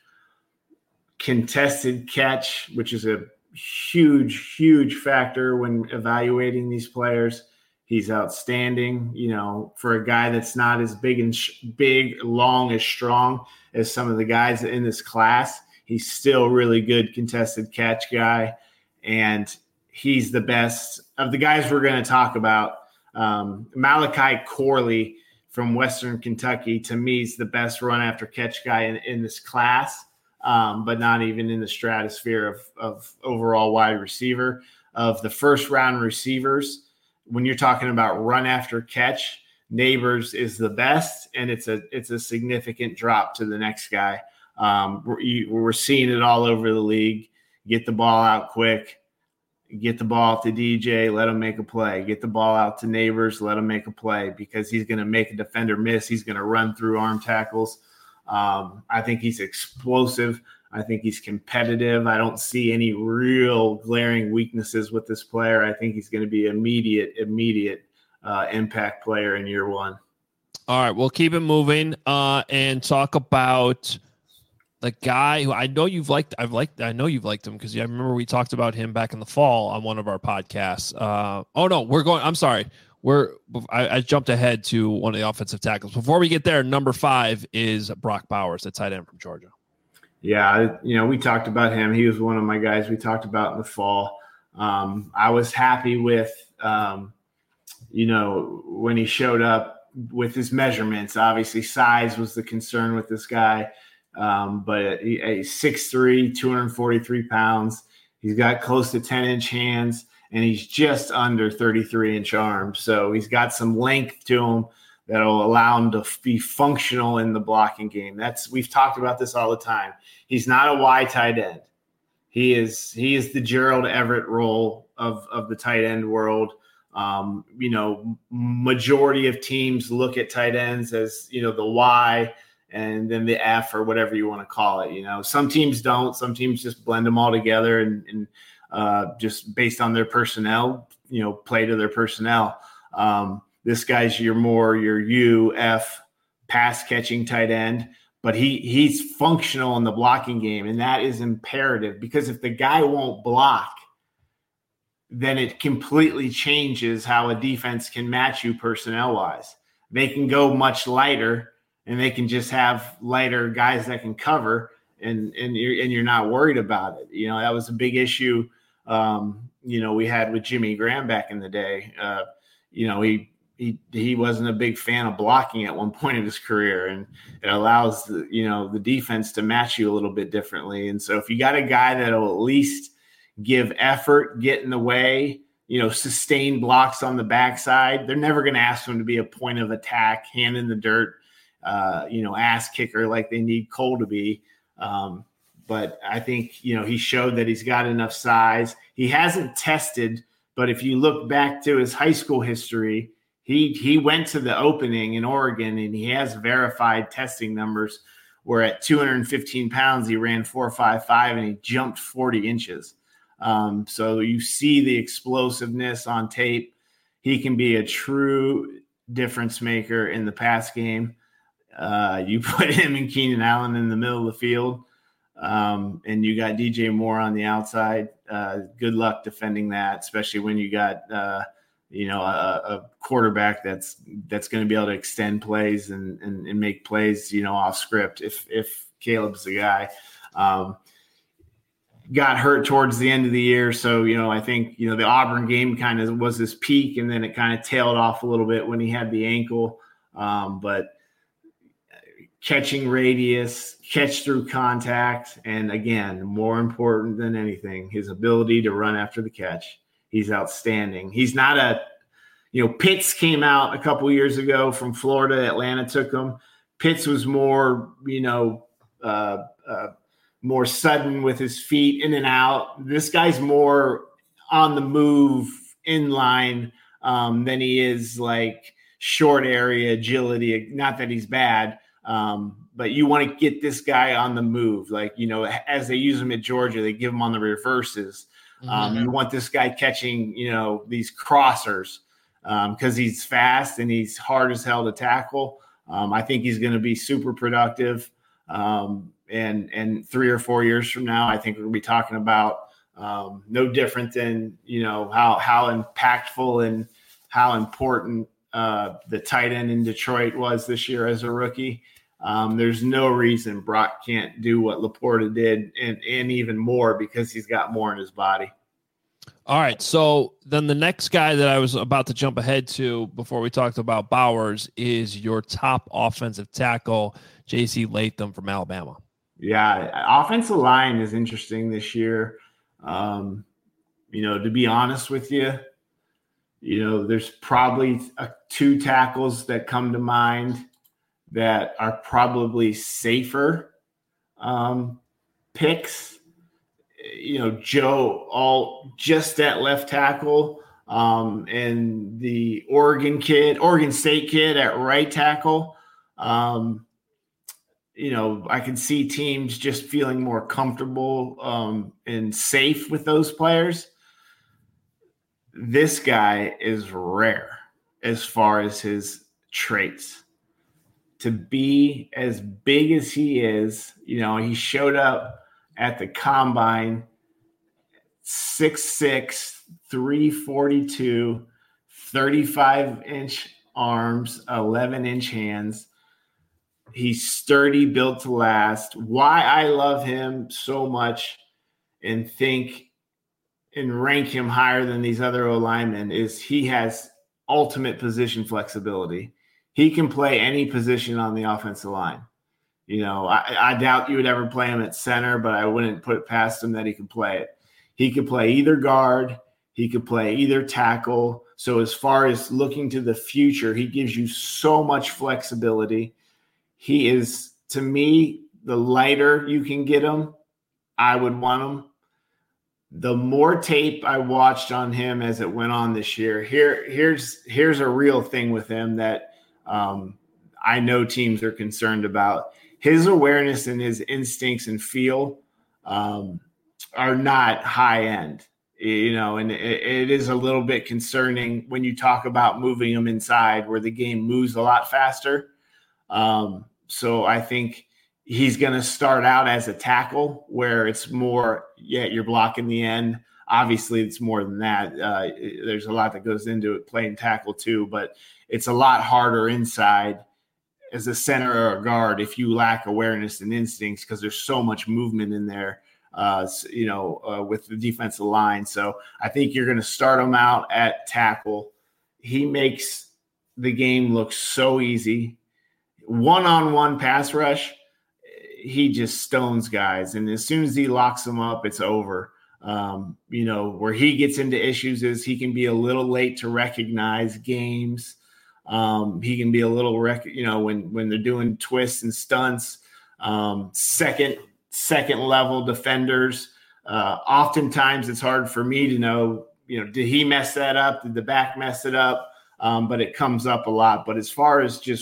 L: Contested catch, which is a huge, huge factor when evaluating these players. He's outstanding, you know, for a guy that's not as big and sh- big, long, as strong as some of the guys in this class. He's still really good contested catch guy, and he's the best of the guys we're going to talk about. Um, Malachi Corley from Western Kentucky, to me, is the best run after catch guy in, in this class. Um, but not even in the stratosphere of, of overall wide receiver. Of the first round receivers, when you're talking about run after catch, Neighbors is the best, and it's a it's a significant drop to the next guy. Um, we're, we're seeing it all over the league. Get the ball out quick, get the ball to D J, let him make a play. Get the ball out to Neighbors, let him make a play, because he's going to make a defender miss. He's going to run through arm tackles. Um, I think he's explosive. I think he's competitive. I don't see any real glaring weaknesses with this player. I think he's going to be immediate, immediate uh, impact player in year one.
K: All right, we'll keep it moving uh, and talk about the guy who I know you've liked. I've liked. I know you've liked him because I remember we talked about him back in the fall on one of our podcasts. Uh, oh no, we're going. I'm sorry. We're I, I jumped ahead to one of the offensive tackles. Before we get there, number five is Brock Bowers, the tight end from Georgia.
L: Yeah, you know, we talked about him. He was one of my guys we talked about in the fall. Um, I was happy with, um, you know, when he showed up with his measurements. Obviously, size was the concern with this guy, um, but he's six three, two hundred forty-three pounds. He's got close to ten-inch hands. And he's just under thirty-three inch arms. So he's got some length to him that'll allow him to be functional in the blocking game. That's we've talked about this all the time. He's not a Y tight end. He is he is the Gerald Everett role of, of the tight end world. Um, you know, majority of teams look at tight ends as, you know, the Y and then the F or whatever you want to call it. You know, some teams don't. Some teams just blend them all together and, and Uh, just based on their personnel, you know, play to their personnel. Um, this guy's your more your U F pass catching tight end, but he he's functional in the blocking game, and that is imperative because if the guy won't block, then it completely changes how a defense can match you personnel wise. They can go much lighter, and they can just have lighter guys that can cover, and and you're and you're not worried about it. You know, that was a big issue. Um, you know, we had with Jimmy Graham back in the day. Uh, you know, he he he wasn't a big fan of blocking at one point of his career, and it allows the, you know, the defense to match you a little bit differently. And so if you got a guy that'll at least give effort, get in the way, you know, sustain blocks on the backside, they're never going to ask him to be a point of attack, hand in the dirt, uh, you know, ass kicker like they need Cole to be. Um, but I think, you know, he showed that he's got enough size. He hasn't tested, but if you look back to his high school history, He he went to the opening in Oregon, and he has verified testing numbers where at two hundred fifteen pounds, he ran four five five and he jumped forty inches. Um, so you see the explosiveness on tape. He can be a true difference maker in the pass game. Uh, you put him and Keenan Allen in the middle of the field, um, and you got D J Moore on the outside. Uh, good luck defending that, especially when you got uh, – you know, a, a quarterback that's that's going to be able to extend plays and, and and make plays, you know, off script. If if Caleb's the guy, um, got hurt towards the end of the year, so you know, I think you know the Auburn game kind of was his peak, and then it kind of tailed off a little bit when he had the ankle. Um, but catching radius, catch through contact, and again, more important than anything, his ability to run after the catch. He's outstanding. He's not a, you know, Pitts came out a couple years ago from Florida. Atlanta took him. Pitts was more, you know, uh, uh, more sudden with his feet in and out. This guy's more on the move, in line, um, than he is like short area agility. Not that he's bad, um, but you want to get this guy on the move. Like, you know, as they use him at Georgia, they give him on the reverses. Um, you want this guy catching, you know, these crossers because um, he's fast and he's hard as hell to tackle. Um, I think he's going to be super productive. Um, and and three or four years from now, I think we're going to be talking about um, no different than, you know, how how impactful and how important uh, the tight end in Detroit was this year as a rookie. Um, there's no reason Brock can't do what Laporta did and, and even more because he's got more in his body.
K: All right. So then the next guy that I was about to jump ahead to before we talked about Bowers is your top offensive tackle, J C Latham from Alabama.
L: Yeah. Offensive line is interesting this year. Um, you know, to be honest with you, you know, there's probably a, two tackles that come to mind that are probably safer um, picks. You know, Joe all just at left tackle, um, and the Oregon kid, Oregon State kid at right tackle. Um, you know, I can see teams just feeling more comfortable um, and safe with those players. This guy is rare as far as his traits. To be as big as he is, you know, he showed up at the combine, six six, three forty-two, thirty-five inch arms, eleven inch hands. He's sturdy, built to last. Why I love him so much and think and rank him higher than these other O-linemen is he has ultimate position flexibility. He can play any position on the offensive line. You know, I, I doubt you would ever play him at center, but I wouldn't put it past him that he could play it. He could play either guard. He could play either tackle. So as far as looking to the future, he gives you so much flexibility. He is, to me, the lighter you can get him, I would want him. The more tape I watched on him as it went on this year, here, here's here's a real thing with him that um, I know teams are concerned about. His awareness and his instincts and feel um, are not high end, you know, and it, it is a little bit concerning when you talk about moving him inside where the game moves a lot faster. Um, so I think he's going to start out as a tackle where it's more, yeah, you're blocking the end. Obviously, it's more than that. Uh, there's a lot that goes into it, playing tackle too, but it's a lot harder inside as a center or a guard if you lack awareness and instincts because there's so much movement in there, uh, you know, uh, with the defensive line. So I think you're going to start him out at tackle. He makes the game look so easy. One-on-one pass rush, he just stones guys. And as soon as he locks them up, it's over. Um, you know, where he gets into issues is he can be a little late to recognize games. Um, he can be a little, rec- you know, when, when they're doing twists and stunts, um, second, second level defenders. Uh, oftentimes it's hard for me to know, you know, did he mess that up? Did the back mess it up? Um, but it comes up a lot. But as far as just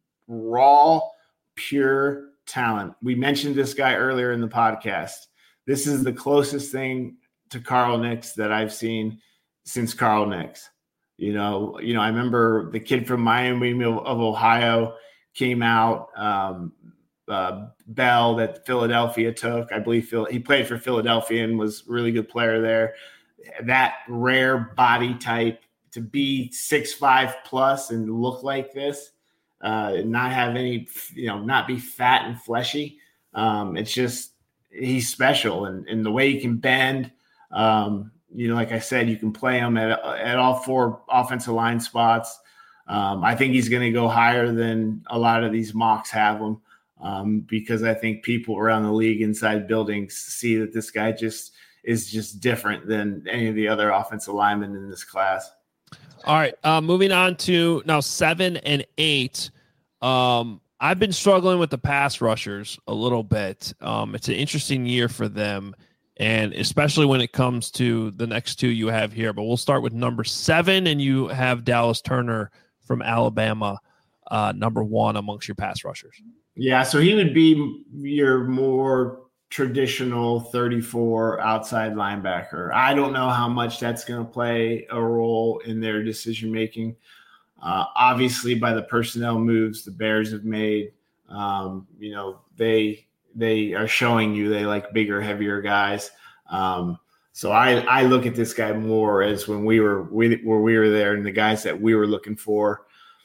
L: raw, pure talent, we mentioned this guy earlier in the podcast. This is the closest thing to Carl Nicks that I've seen since Carl Nicks. You know, you know, I remember the kid from Miami of Ohio came out, um, uh, Bell that Philadelphia took. I believe Phil, he played for Philadelphia and was a really good player there. That rare body type to be six five plus and look like this, uh, and not have any, you know, not be fat and fleshy. Um, it's just, he's special. And, and the way he can bend, um, you know, like I said, you can play him at, at all four offensive line spots. Um, I think he's going to go higher than a lot of these mocks have him, um, because I think people around the league inside buildings see that this guy just is just different than any of the other offensive linemen in this class.
K: All right. Uh, moving on to now seven and eight. Um, I've been struggling with the pass rushers a little bit. Um, it's an interesting year for them, and especially when it comes to the next two you have here. But we'll start with number seven, and you have Dallas Turner from Alabama, uh, number one amongst your pass rushers.
L: Yeah, so he would be your more traditional thirty-four outside linebacker. I don't know how much that's going to play a role in their decision making. Uh, obviously, by the personnel moves the Bears have made, um, you know, they they are showing you they like bigger, heavier guys. Um, so I, I look at this guy more as when we were we, where we were there and the guys that we were looking for.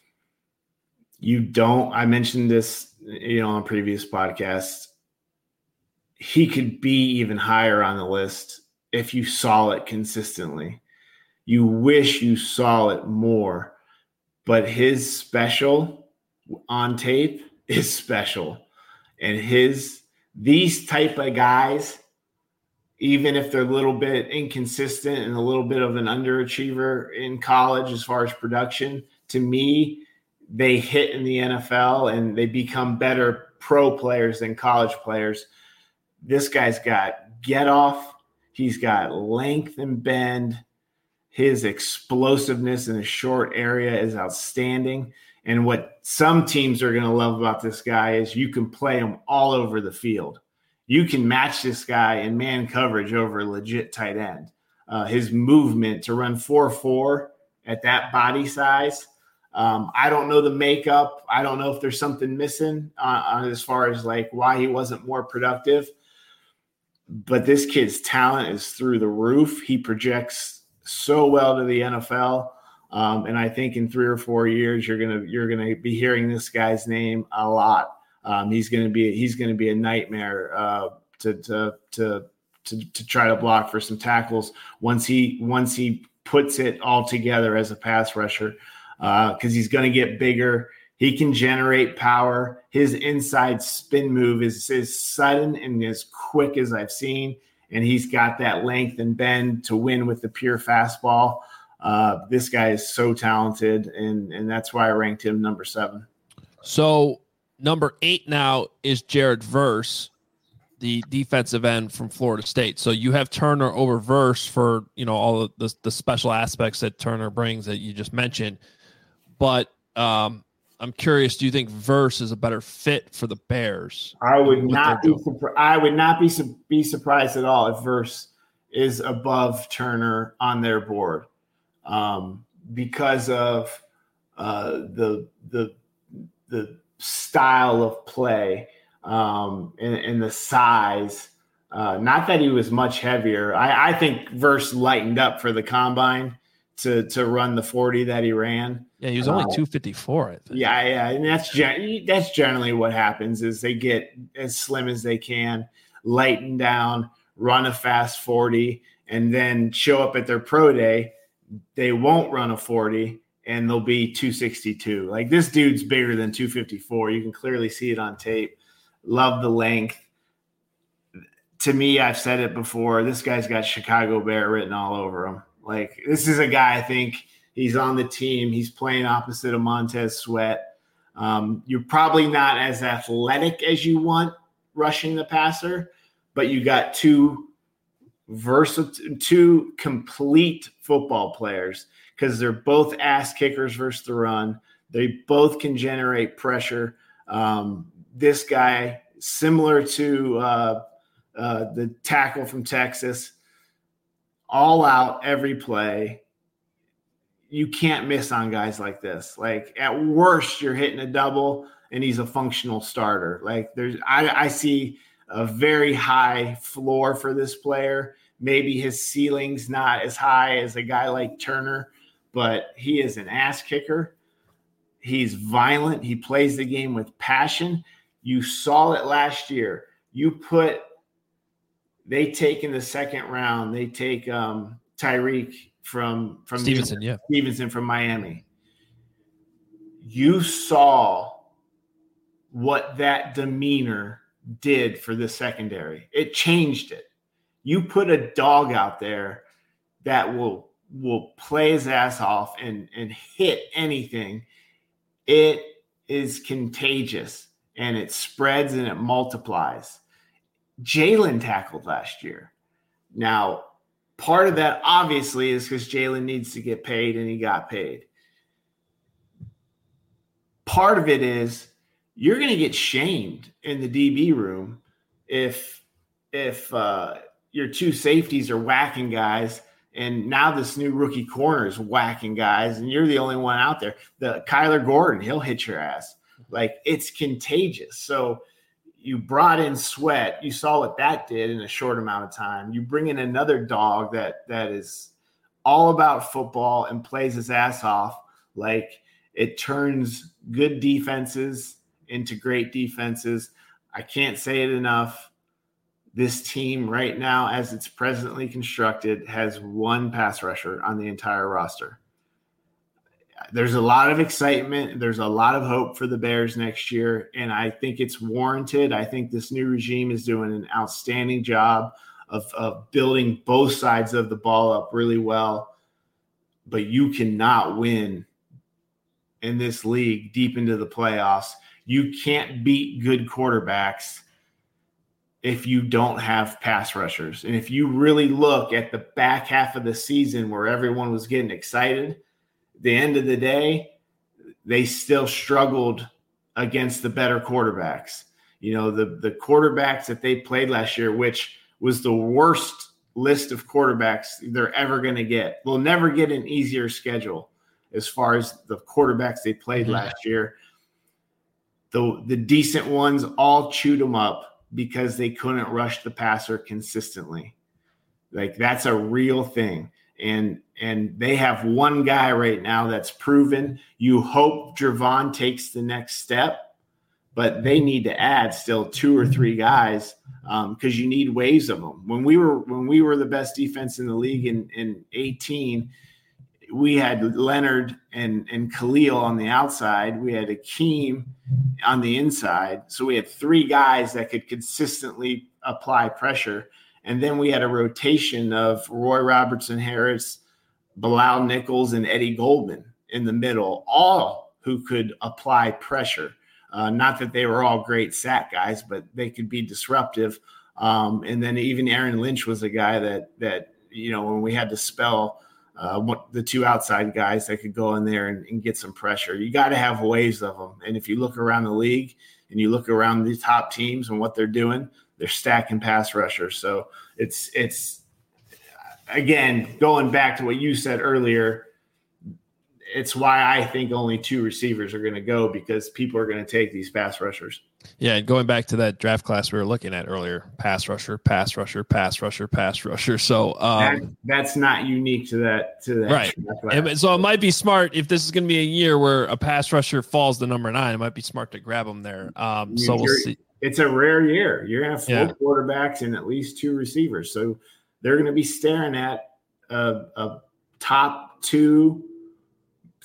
L: You don't. I mentioned this, you know, on previous podcasts. He could be even higher on the list if you saw it consistently. You wish you saw it more, but his special on tape is special. And his, these type of guys, even if they're a little bit inconsistent and a little bit of an underachiever in college as far as production, to me, they hit in the N F L and they become better pro players than college players. This guy's got get off. He's got length and bend. His explosiveness in a short area is outstanding. And what some teams are going to love about this guy is you can play him all over the field. You can match this guy in man coverage over a legit tight end. Uh, his movement to run four four at that body size. Um, I don't know the makeup. I don't know if there's something missing uh, on as far as like why he wasn't more productive. But this kid's talent is through the roof. He projects so well to the N F L. Um, and I think in three or four years, you're gonna you're gonna be hearing this guy's name a lot. Um, he's gonna be he's gonna be a nightmare uh, to, to to to to try to block for some tackles once he once he puts it all together as a pass rusher, because uh, he's gonna get bigger. He can generate power. His inside spin move is as sudden and as quick as I've seen, and he's got that length and bend to win with the pure fastball. Uh, this guy is so talented, and, and that's why I ranked him number seven.
K: So number eight now is Jared Verse, the defensive end from Florida State. So you have Turner over Verse for, you know, all of the, the special aspects that Turner brings that you just mentioned. But um, I'm curious, do you think Verse is a better fit for the Bears?
L: I would not be surprised. I would not be su- be surprised at all if Verse is above Turner on their board, um, because of uh, the the the style of play um, and, and the size. Uh, not that he was much heavier. I, I think Verse lightened up for the combine to to run the forty that he ran.
K: Yeah, he was only
L: uh,
K: two fifty-four, I think.
L: Yeah, yeah, and that's gen- that's generally what happens is they get as slim as they can, lighten down, run a fast forty, and then show up at their pro day. They won't run a forty, and they'll be two sixty-two. Like, this dude's bigger than two fifty-four. You can clearly see it on tape. Love the length. To me, I've said it before, this guy's got Chicago Bear written all over him. Like, this is a guy, I think he's on the team. He's playing opposite of Montez Sweat. Um, you're probably not as athletic as you want rushing the passer, but you got two versatile, two complete football players, because they're both ass kickers versus the run. They both can generate pressure. Um, this guy, similar to uh, uh, the tackle from Texas, all out every play. You can't miss on guys like this. Like, at worst, you're hitting a double, and he's a functional starter. Like, there's, I, I see a very high floor for this player. Maybe his ceiling's not as high as a guy like Turner, but he is an ass kicker. He's violent. He plays the game with passion. You saw it last year. You put – they take in the second round, they take um, Tyreek from, from
K: Stevenson, yeah.
L: Stevenson from Miami. You saw what that demeanor did for the secondary. It changed it. You put a dog out there that will will play his ass off and, and hit anything. It is contagious, and it spreads and it multiplies. Jalen tackled last year. Now, part of that obviously is because Jalen needs to get paid, and he got paid. Part of it is you're going to get shamed in the D B room if if uh, your two safeties are whacking guys, and now this new rookie corner is whacking guys, and you're the only one out there. The Kyler Gordon, he'll hit your ass. Like, it's contagious. So you brought in Sweat. You saw what that did in a short amount of time. You bring in another dog that that is all about football and plays his ass off. Like, it turns good defenses into great defenses. I can't say it enough. This team right now, as it's presently constructed, has one pass rusher on the entire roster. There's a lot of excitement. There's a lot of hope for the Bears next year, and I think it's warranted. I think this new regime is doing an outstanding job of, of building both sides of the ball up really well. But you cannot win in this league deep into the playoffs. You can't beat good quarterbacks if you don't have pass rushers. And if you really look at the back half of the season where everyone was getting excited, the end of the day, they still struggled against the better quarterbacks. You know, the, the quarterbacks that they played last year, which was the worst list of quarterbacks they're ever going to get. They'll never get an easier schedule as far as the quarterbacks they played mm-hmm. last year. The, the decent ones all chewed them up because they couldn't rush the passer consistently. Like, that's a real thing. And and they have one guy right now that's proven. You hope Javon takes the next step, but they need to add still two or three guys because um, you need waves of them. When we were when we were the best defense in the league in, in eighteen, we had Leonard and, and Khalil on the outside. We had Akeem on the inside. So we had three guys that could consistently apply pressure. And then we had a rotation of Roy Robertson Harris, Bilal Nichols, and Eddie Goldman in the middle, all who could apply pressure. Uh, not that they were all great sack guys, but they could be disruptive. Um, and then even Aaron Lynch was a guy that, that you know, when we had to spell uh, what, the two outside guys that could go in there and, and get some pressure. You got to have waves of them. And if you look around the league and you look around the top teams and what they're doing, they're stacking pass rushers. So it's, it's again, going back to what you said earlier, it's why I think only two receivers are going to go, because people are going to take these pass rushers.
K: Yeah, and going back to that draft class we were looking at earlier, pass rusher, pass rusher, pass rusher, pass rusher. So um,
L: that, that's not unique to that. To that
K: right. And so it might be smart if this is going to be a year where a pass rusher falls to number nine. It might be smart to grab them there. Um, so we'll see.
L: It's a rare year. You're going to have four
K: yeah.
L: quarterbacks and at least two receivers. So they're going to be staring at a, a top two,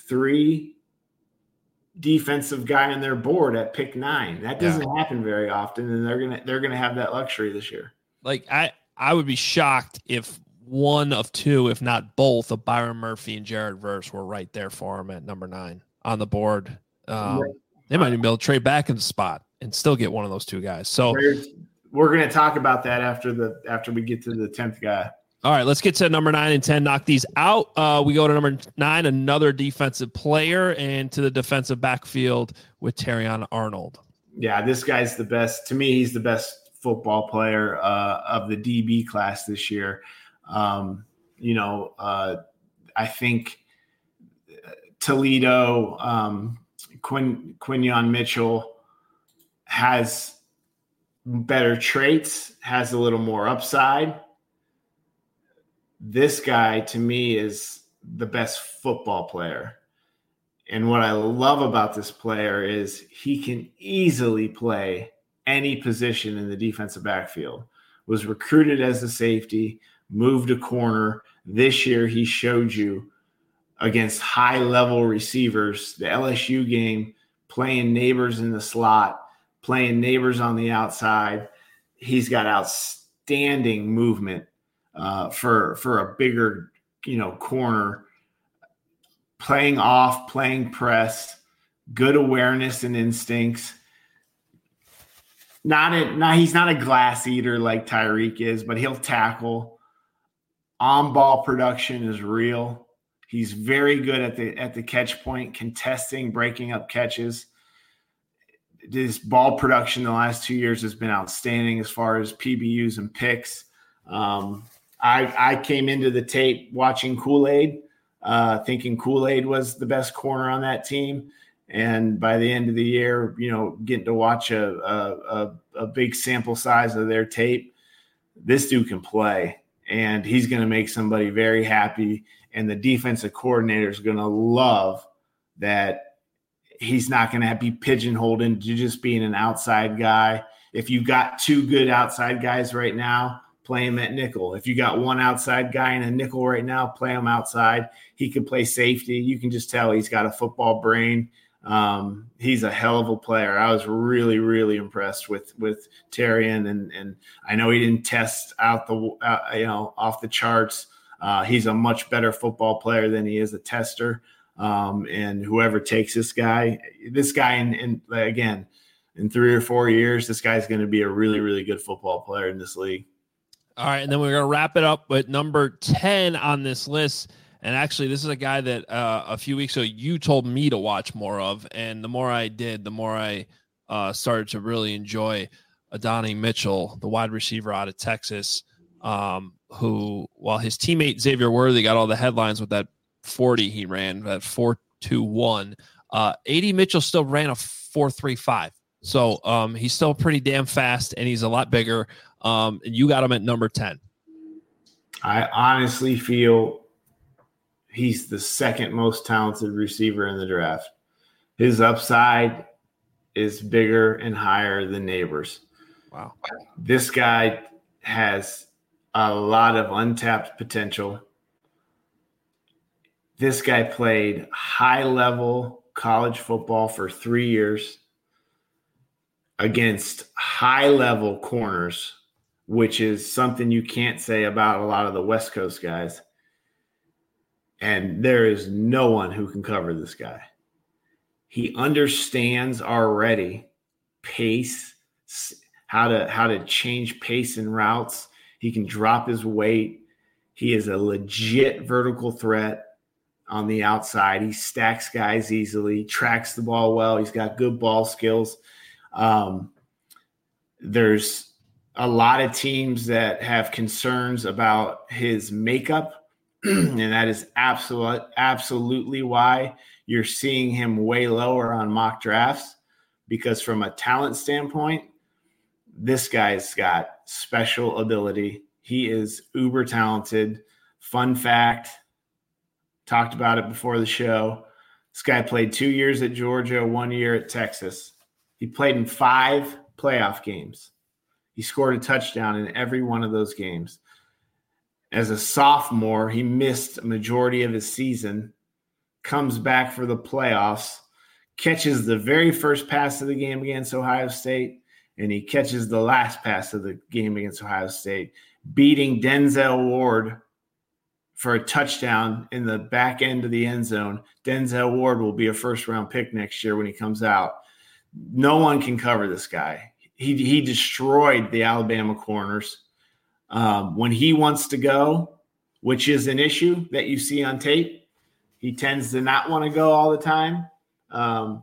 L: three defensive guy on their board at pick nine. That doesn't yeah. happen very often, and they're gonna they're gonna have that luxury this year.
K: Like I, I would be shocked if one of two, if not both, of Byron Murphy and Jared Verse were right there for him at number nine on the board. Um, right. They might even be able to trade back in the spot and still get one of those two guys. So
L: There's, we're going to talk about that after the after we get to the tenth guy.
K: All right, let's get to number nine and ten. Knock these out. Uh, we go to number nine, another defensive player, and to the defensive backfield with Terrion Arnold.
L: Yeah, this guy's the best. To me, he's the best football player uh, of the D B class this year. Um, you know, uh, I think Toledo, um, Quin, Quinyon Mitchell has better traits, has a little more upside. This guy, to me, is the best football player. And what I love about this player is he can easily play any position in the defensive backfield. Was recruited as a safety, moved a corner. This year he showed you against high-level receivers, the L S U game, playing neighbors in the slot, playing neighbors on the outside. He's got outstanding movement uh, for, for a bigger, you know, corner, playing off, playing press, good awareness and instincts. Not a, not, he's not a glass eater like Tyreek is, but he'll tackle. On-ball production is real. He's very good at the at the catch point, contesting, breaking up catches. His ball production the last two years has been outstanding as far as P B Us and picks. Um, I, I came into the tape watching Kool-Aid, uh, thinking Kool-Aid was the best corner on that team. And by the end of the year, you know, getting to watch a, a, a big sample size of their tape, this dude can play, and he's going to make somebody very happy. And the defensive coordinator is going to love that he's not going to be pigeonholed into just being an outside guy. If you've got two good outside guys right now, play him at nickel. If you got one outside guy in a nickel right now, play him outside. He can play safety. You can just tell he's got a football brain. Um, he's a hell of a player. I was really, really impressed with, with Terrion, and, and I know he didn't test out the, uh, you know, off the charts. Uh, he's a much better football player than he is a tester. Um, and whoever takes this guy, this guy, in, in again, in three or four years, this guy's going to be a really, really good football player in this league.
K: All right. And then we're going to wrap it up with number ten on this list. And actually, this is a guy that uh, a few weeks ago you told me to watch more of. And the more I did, the more I uh, started to really enjoy Adonai Mitchell, the wide receiver out of Texas, um, who, while his teammate Xavier Worthy got all the headlines with that forty he ran, that four two one, uh, A D Mitchell still ran a four three five. So um, he's still pretty damn fast, and he's a lot bigger. Um, and you got him at number ten.
L: I honestly feel he's the second most talented receiver in the draft. His upside is bigger and higher than Neighbors.
K: Wow.
L: This guy has a lot of untapped potential. This guy played high-level college football for three years against high-level corners, which is something you can't say about a lot of the West Coast guys. And there is no one who can cover this guy. He understands already pace, how to how to change pace and routes. He can drop his weight. He is a legit vertical threat on the outside. He stacks guys easily, tracks the ball well. He's got good ball skills. Um, there's a lot of teams that have concerns about his makeup. And that is absolute, absolutely why you're seeing him way lower on mock drafts, because from a talent standpoint, this guy's got special ability. He is uber talented. Fun fact, talked about it before the show. This guy played two years at Georgia, one year at Texas. He played in five playoff games. He scored a touchdown in every one of those games. As a sophomore, he missed a majority of his season comes back for the playoffs, catches the very first pass of the game against Ohio State, and he catches the last pass of the game against Ohio State, beating Denzel Ward for a touchdown in the back end of the end zone. Denzel Ward will be a first-round pick next year when he comes out. No one can cover this guy. He, he destroyed the Alabama corners. Um, when he wants to go, which is an issue that you see on tape, he tends to not want to go all the time. Um,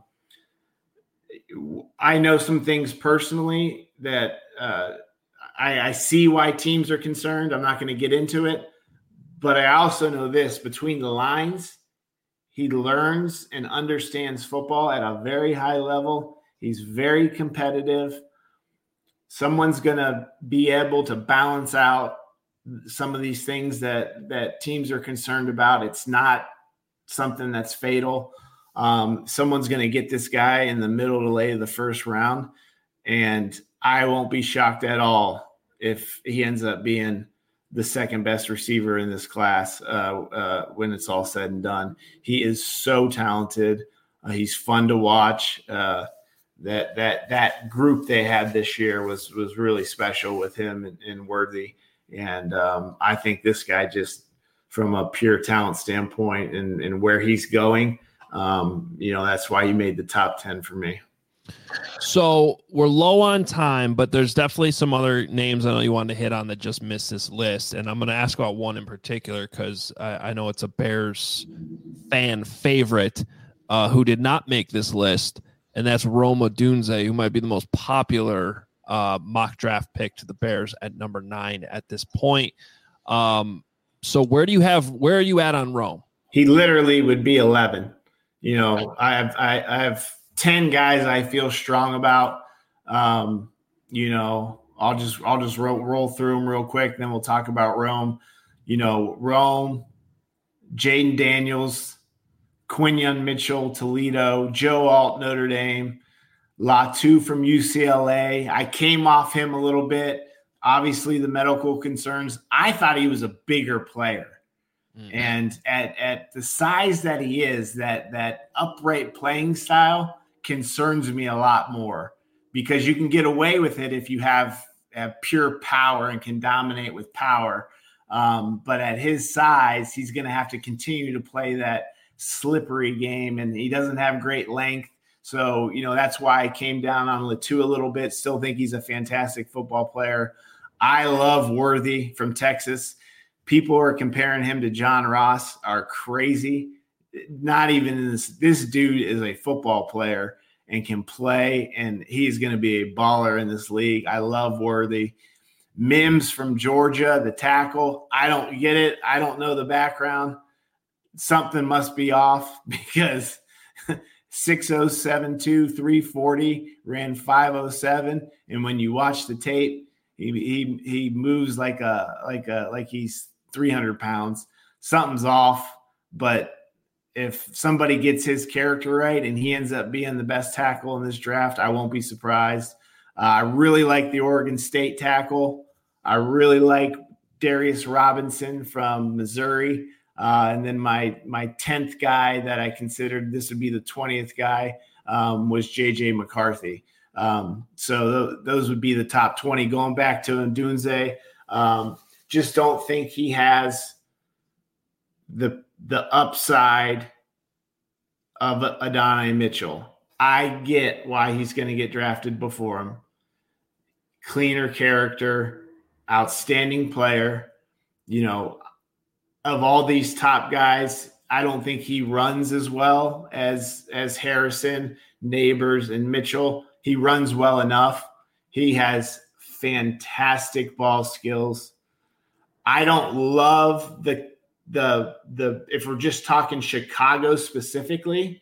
L: I know some things personally that uh, I, I see why teams are concerned. I'm not going to get into it, but I also know this: between the lines, he learns and understands football at a very high level. He's very competitive. Someone's going to be able to balance out some of these things that, that teams are concerned about. It's not something that's fatal. Um, someone's going to get this guy in the middle to late of the first round, and I won't be shocked at all if he ends up being the second best receiver in this class uh, uh, when it's all said and done. He is so talented. Uh, he's fun to watch. Uh, that that that group they had this year was was really special with him and, and Worthy. And um, I think this guy, just from a pure talent standpoint and, and where he's going, um, you know, that's why he made the top ten for me.
K: So we're low on time, but there's definitely some other names I know you wanted to hit on that just missed this list. And I'm going to ask about one in particular because I, I know it's a Bears fan favorite uh, who did not make this list, and that's Rome Odunze, who might be the most popular uh, mock draft pick to the Bears at number nine at this point. Um, so where do you have, where are you at on Rome?
L: He literally would be eleven. You know, I have, I, I have ten guys I feel strong about. Um, you know, I'll just, I'll just roll, roll through them real quick. Then we'll talk about Rome. You know, Rome, Jaden Daniels, Quinyon Mitchell, Toledo, Joe Alt, Notre Dame, Latu from U C L A. I came off him a little bit. Obviously, the medical concerns. I thought he was a bigger player. Mm-hmm. And at, at the size that he is, that, that upright playing style concerns me a lot more, because you can get away with it if you have, have pure power and can dominate with power. Um, but at his size, he's going to have to continue to play that slippery game, and he doesn't have great length. So, you know, that's why I came down on Latu a little bit. Still think he's a fantastic football player. I love Worthy from Texas. People are comparing him to John Ross are crazy. Not even in this. This dude is a football player and can play, and he's going to be a baller in this league. I love Worthy. Mims from Georgia, the tackle. I don't get it. I don't know the background. Something must be off, because six oh seven two, three forty, ran five oh seven, and when you watch the tape, he he he moves like a like a like he's three hundred pounds. Something's off. But if somebody gets his character right and he ends up being the best tackle in this draft, I won't be surprised. Uh, I really like the Oregon State tackle. I really like Darius Robinson from Missouri. Uh, and then my my tenth guy that I considered, this would be the twentieth guy, um, was J J McCarthy. Um, so th- those would be the top twenty. Going back to Odunze, um, just don't think he has the the upside of Adonai Mitchell. I get why he's going to get drafted before him. Cleaner character, outstanding player. You know, of all these top guys, I don't think he runs as well as as Harrison, Neighbors, and Mitchell. He runs well enough. He has fantastic ball skills. I don't love the the the if we're just talking Chicago specifically.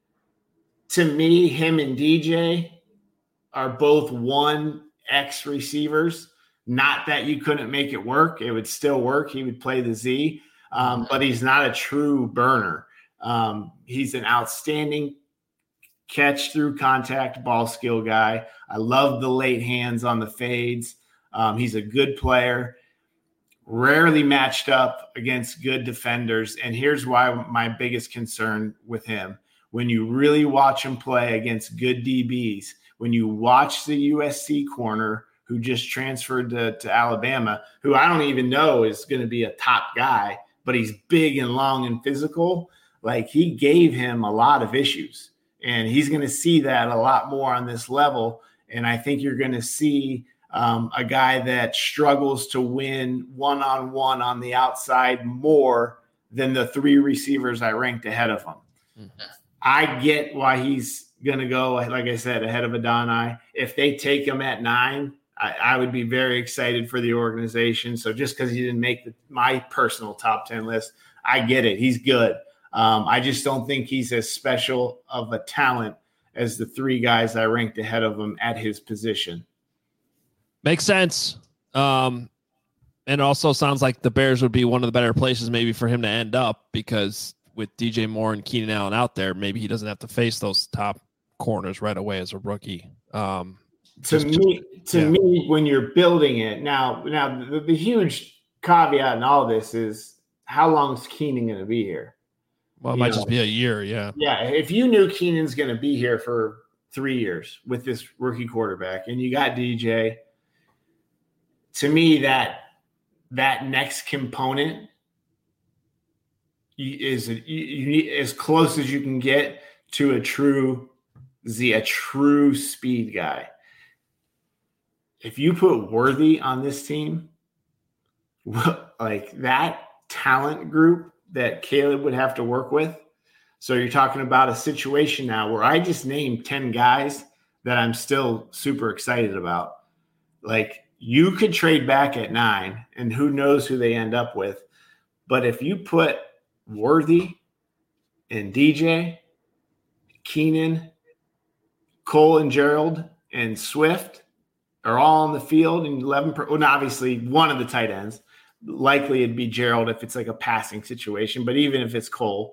L: To me, him and D J are both one X receivers. Not that you couldn't make it work. It would still work. He would play the Z, um, but he's not a true burner. Um, he's an outstanding catch through contact ball skill guy. I love the late hands on the fades. Um, he's a good player. rarely matched up against good defenders. And here's why my biggest concern with him. When you really watch him play against good D Bs, when you watch the U S C corner who just transferred to, to Alabama, who I don't even know is going to be a top guy, but he's big and long and physical, like he gave him a lot of issues. And he's going to see that a lot more on this level. And I think you're going to see um, a guy that struggles to win one-on-one on the outside more than the three receivers I ranked ahead of him. Mm-hmm. I get why he's going to go, like I said, ahead of Adonai. If they take him at nine, I, I would be very excited for the organization. So just because he didn't make the, my personal top ten list, I get it. He's good. Um, I just don't think he's as special of a talent as the three guys I ranked ahead of him at his position.
K: Makes sense. Um, and also sounds like the Bears would be one of the better places maybe for him to end up, because with D J Moore and Keenan Allen out there, maybe he doesn't have to face those top corners right away as a rookie. Um,
L: to
K: just,
L: me, to
K: yeah.
L: me, when you're building it now, now the, the huge caveat in all this is how long is Keenan going to be here?
K: Well, it
L: you
K: might
L: know,
K: just be a year. Yeah.
L: Yeah. If you knew Keenan's going to be here for three years with this rookie quarterback and you got D J, to me, that that next component is you, you need as close as you can get to a true Z, a true speed guy. If you put Worthy on this team, like that talent group that Caleb would have to work with. So you're talking about a situation now where I just named ten guys that I'm still super excited about. Like, you could trade back at nine, and who knows who they end up with. But if you put Worthy and D J, Keenan, Cole and Gerald, and Swift are all on the field in eleven per, well, obviously one of the tight ends. Likely it'd be Gerald if it's like a passing situation, but even if it's Cole,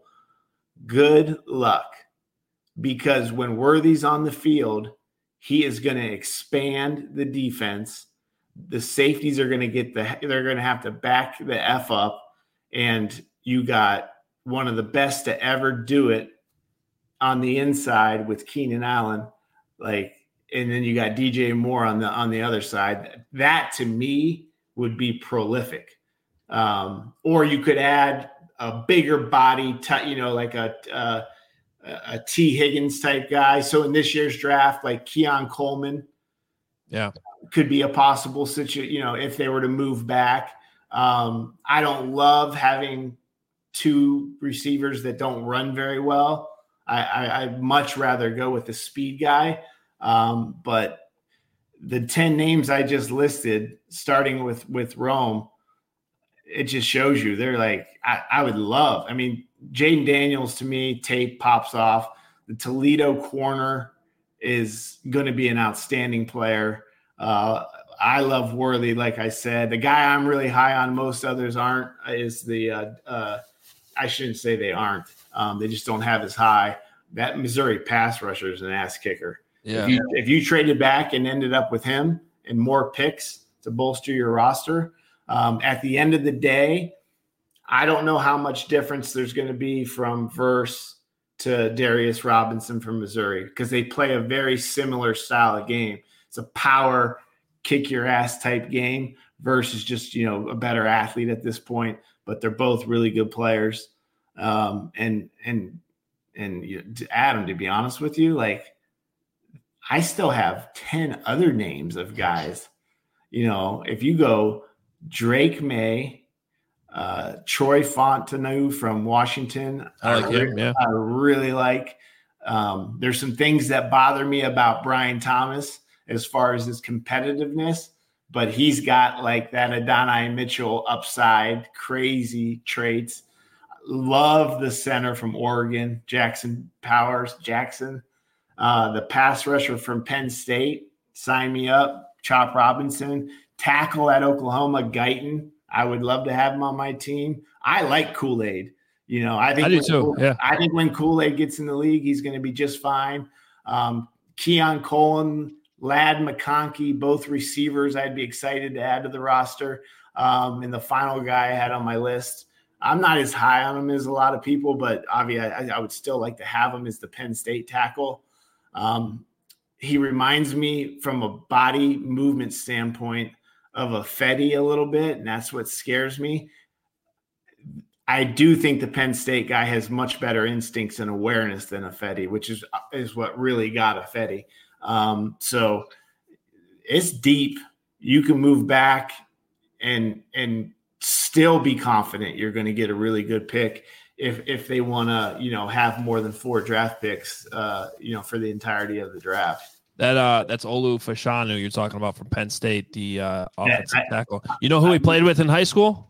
L: good luck. Because when Worthy's on the field, he is going to expand the defense. The safeties are going to get the, they're going to have to back the F up. And you got one of the best to ever do it on the inside with Keenan Allen. Like, and then you got D J Moore on the, on the other side. That to me would be prolific. Um, or you could add a bigger body, t- you know, like a, a, a T Higgins type guy. So in this year's draft, like Keon Coleman,
K: yeah,
L: could be a possible situation, you know, if they were to move back. Um, I don't love having two receivers that don't run very well. I, I, I'd much rather go with the speed guy. Um, but the ten names I just listed, starting with, with Rome, it just shows you they're like, I, I would love, I mean, Jaden Daniels to me, tape pops off. The Toledo corner is going to be an outstanding player. Uh, I love Worthy, like I said. The guy I'm really high on, most others aren't, is the, uh, uh, I shouldn't say they aren't. Um, they just don't have as high. That Missouri pass rusher is an ass kicker.
K: Yeah.
L: If you, if you traded back and ended up with him and more picks to bolster your roster, um, at the end of the day, I don't know how much difference there's going to be from Verse to Darius Robinson from Missouri, because they play a very similar style of game. It's a power, kick your ass type game versus just, you know, a better athlete at this point, but they're both really good players. Um, and, and, and you know, to Adam, to be honest with you, like, I still have ten other names of guys. You know, if you go Drake May, uh, Troy Fontenot from Washington,
K: I like
L: I
K: him,
L: really,
K: yeah.
L: I really like. Um, there's some things that bother me about Brian Thomas as far as his competitiveness, but he's got like that Adonai Mitchell upside, crazy traits. Love the center from Oregon, Jackson Powers, Jackson. Uh, the pass rusher from Penn State, sign me up. Chop Robinson. Tackle at Oklahoma, Guyton. I would love to have him on my team. I like Kool-Aid. You know, I think
K: I do
L: when,
K: too. Yeah.
L: I think when Kool-Aid gets in the league, he's going to be just fine. Um, Keon Coleman, Ladd McConkey, both receivers I'd be excited to add to the roster. Um, and the final guy I had on my list, I'm not as high on him as a lot of people, but obviously I, I would still like to have him as the Penn State tackle. Um, he reminds me from a body movement standpoint of a Fetty a little bit, and that's what scares me. I do think the Penn State guy has much better instincts and awareness than a Fetty, which is is what really got a Fetty. Um, so it's deep. You can move back and and still be confident you're going to get a really good pick if if they want to, you know, have more than four draft picks, uh, you know, for the entirety of the draft.
K: That uh, that's Olu Fashanu you're talking about from Penn State, the uh, offensive
L: Yeah, I,
K: tackle. You know who he played with in high school?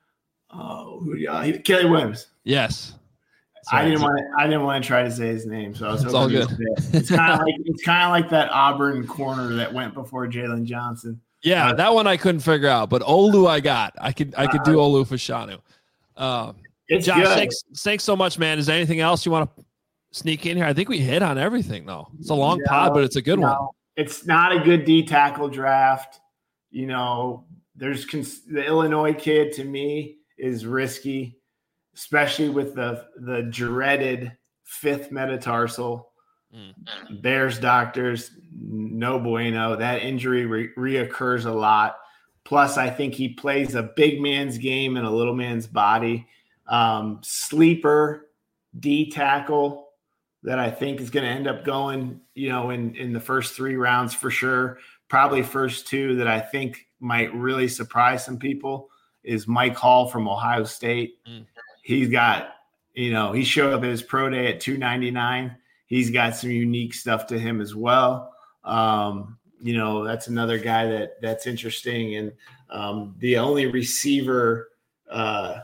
L: Oh, yeah, he, Kelly Williams.
K: Yes.
L: So I didn't want to. I didn't want to try to say his name, so I was.
K: It's all good.
L: It's kind of like it's kind of like that Auburn corner that went before Jalen Johnson.
K: Yeah, uh, that one I couldn't figure out, but Olu I got. I could I could do uh, Olu Fashanu. Um,
L: it's
K: Josh,
L: good.
K: thanks, thanks so much, man. Is there anything else you want to sneak in here? I think we hit on everything, though. It's a long
L: no,
K: pod, but it's a good
L: no,
K: one.
L: It's not a good D tackle draft. You know, there's cons- the Illinois kid to me is risky, especially with the the dreaded fifth metatarsal. Mm. Bears doctors, no bueno. That injury re- reoccurs a lot. Plus, I think he plays a big man's game in a little man's body. Um, sleeper D tackle that I think is going to end up going, you know, in, in the first three rounds for sure. Probably first two that I think might really surprise some people is Mike Hall from Ohio State. Mm. He's got, you know, he showed up at his pro day at two ninety-nine. He's got some unique stuff to him as well. Um, you know, that's another guy that that's interesting. And um, the only receiver uh,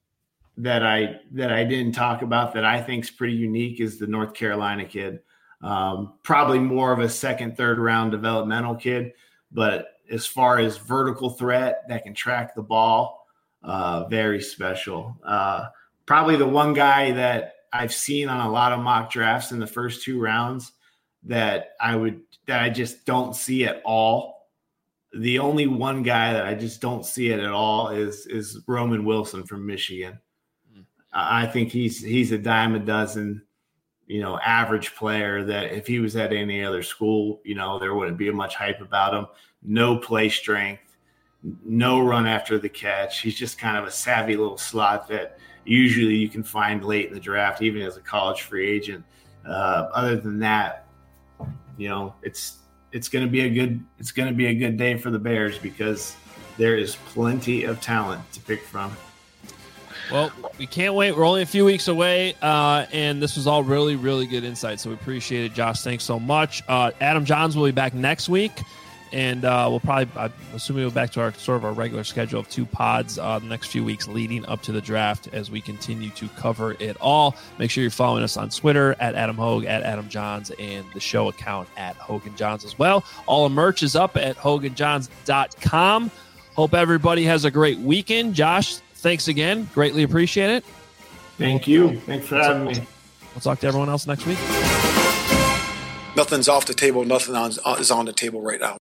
L: that I that I didn't talk about that I think is pretty unique is the North Carolina kid. Um, probably more of a second, third round developmental kid, but as far as vertical threat that can track the ball, uh, very special. Uh, probably the one guy that I've seen on a lot of mock drafts in the first two rounds that I would that I just don't see at all. The only one guy that I just don't see it at all is is Roman Wilson from Michigan. Mm. I think he's he's a dime a dozen, you know, average player that if he was at any other school, you know, there wouldn't be much hype about him. No play strength, no run after the catch. He's just kind of a savvy little slot that usually you can find late in the draft, even as a college free agent. Uh, other than that, you know, it's it's going to be a good it's going to be a good day for the Bears because there is plenty of talent to pick from.
K: Well, we can't wait. We're only a few weeks away, uh, and this was all really, really good insight, so we appreciate it. Josh, thanks so much. Uh, Adam Johns will be back next week, and uh, we'll probably, I'm assuming we'll be back to our sort of our regular schedule of two pods uh, the next few weeks leading up to the draft as we continue to cover it all. Make sure you're following us on Twitter at Adam Hogue, at Adam Johns, and the show account at Hogan Johns as well. All the merch is up at hogan johns dot com. Hope everybody has a great weekend. Josh, thanks again. Greatly appreciate it.
L: Thank you. Thanks for having me.
K: We'll talk to everyone else next week.
A: Nothing's off the table. Nothing on, is on the table right now.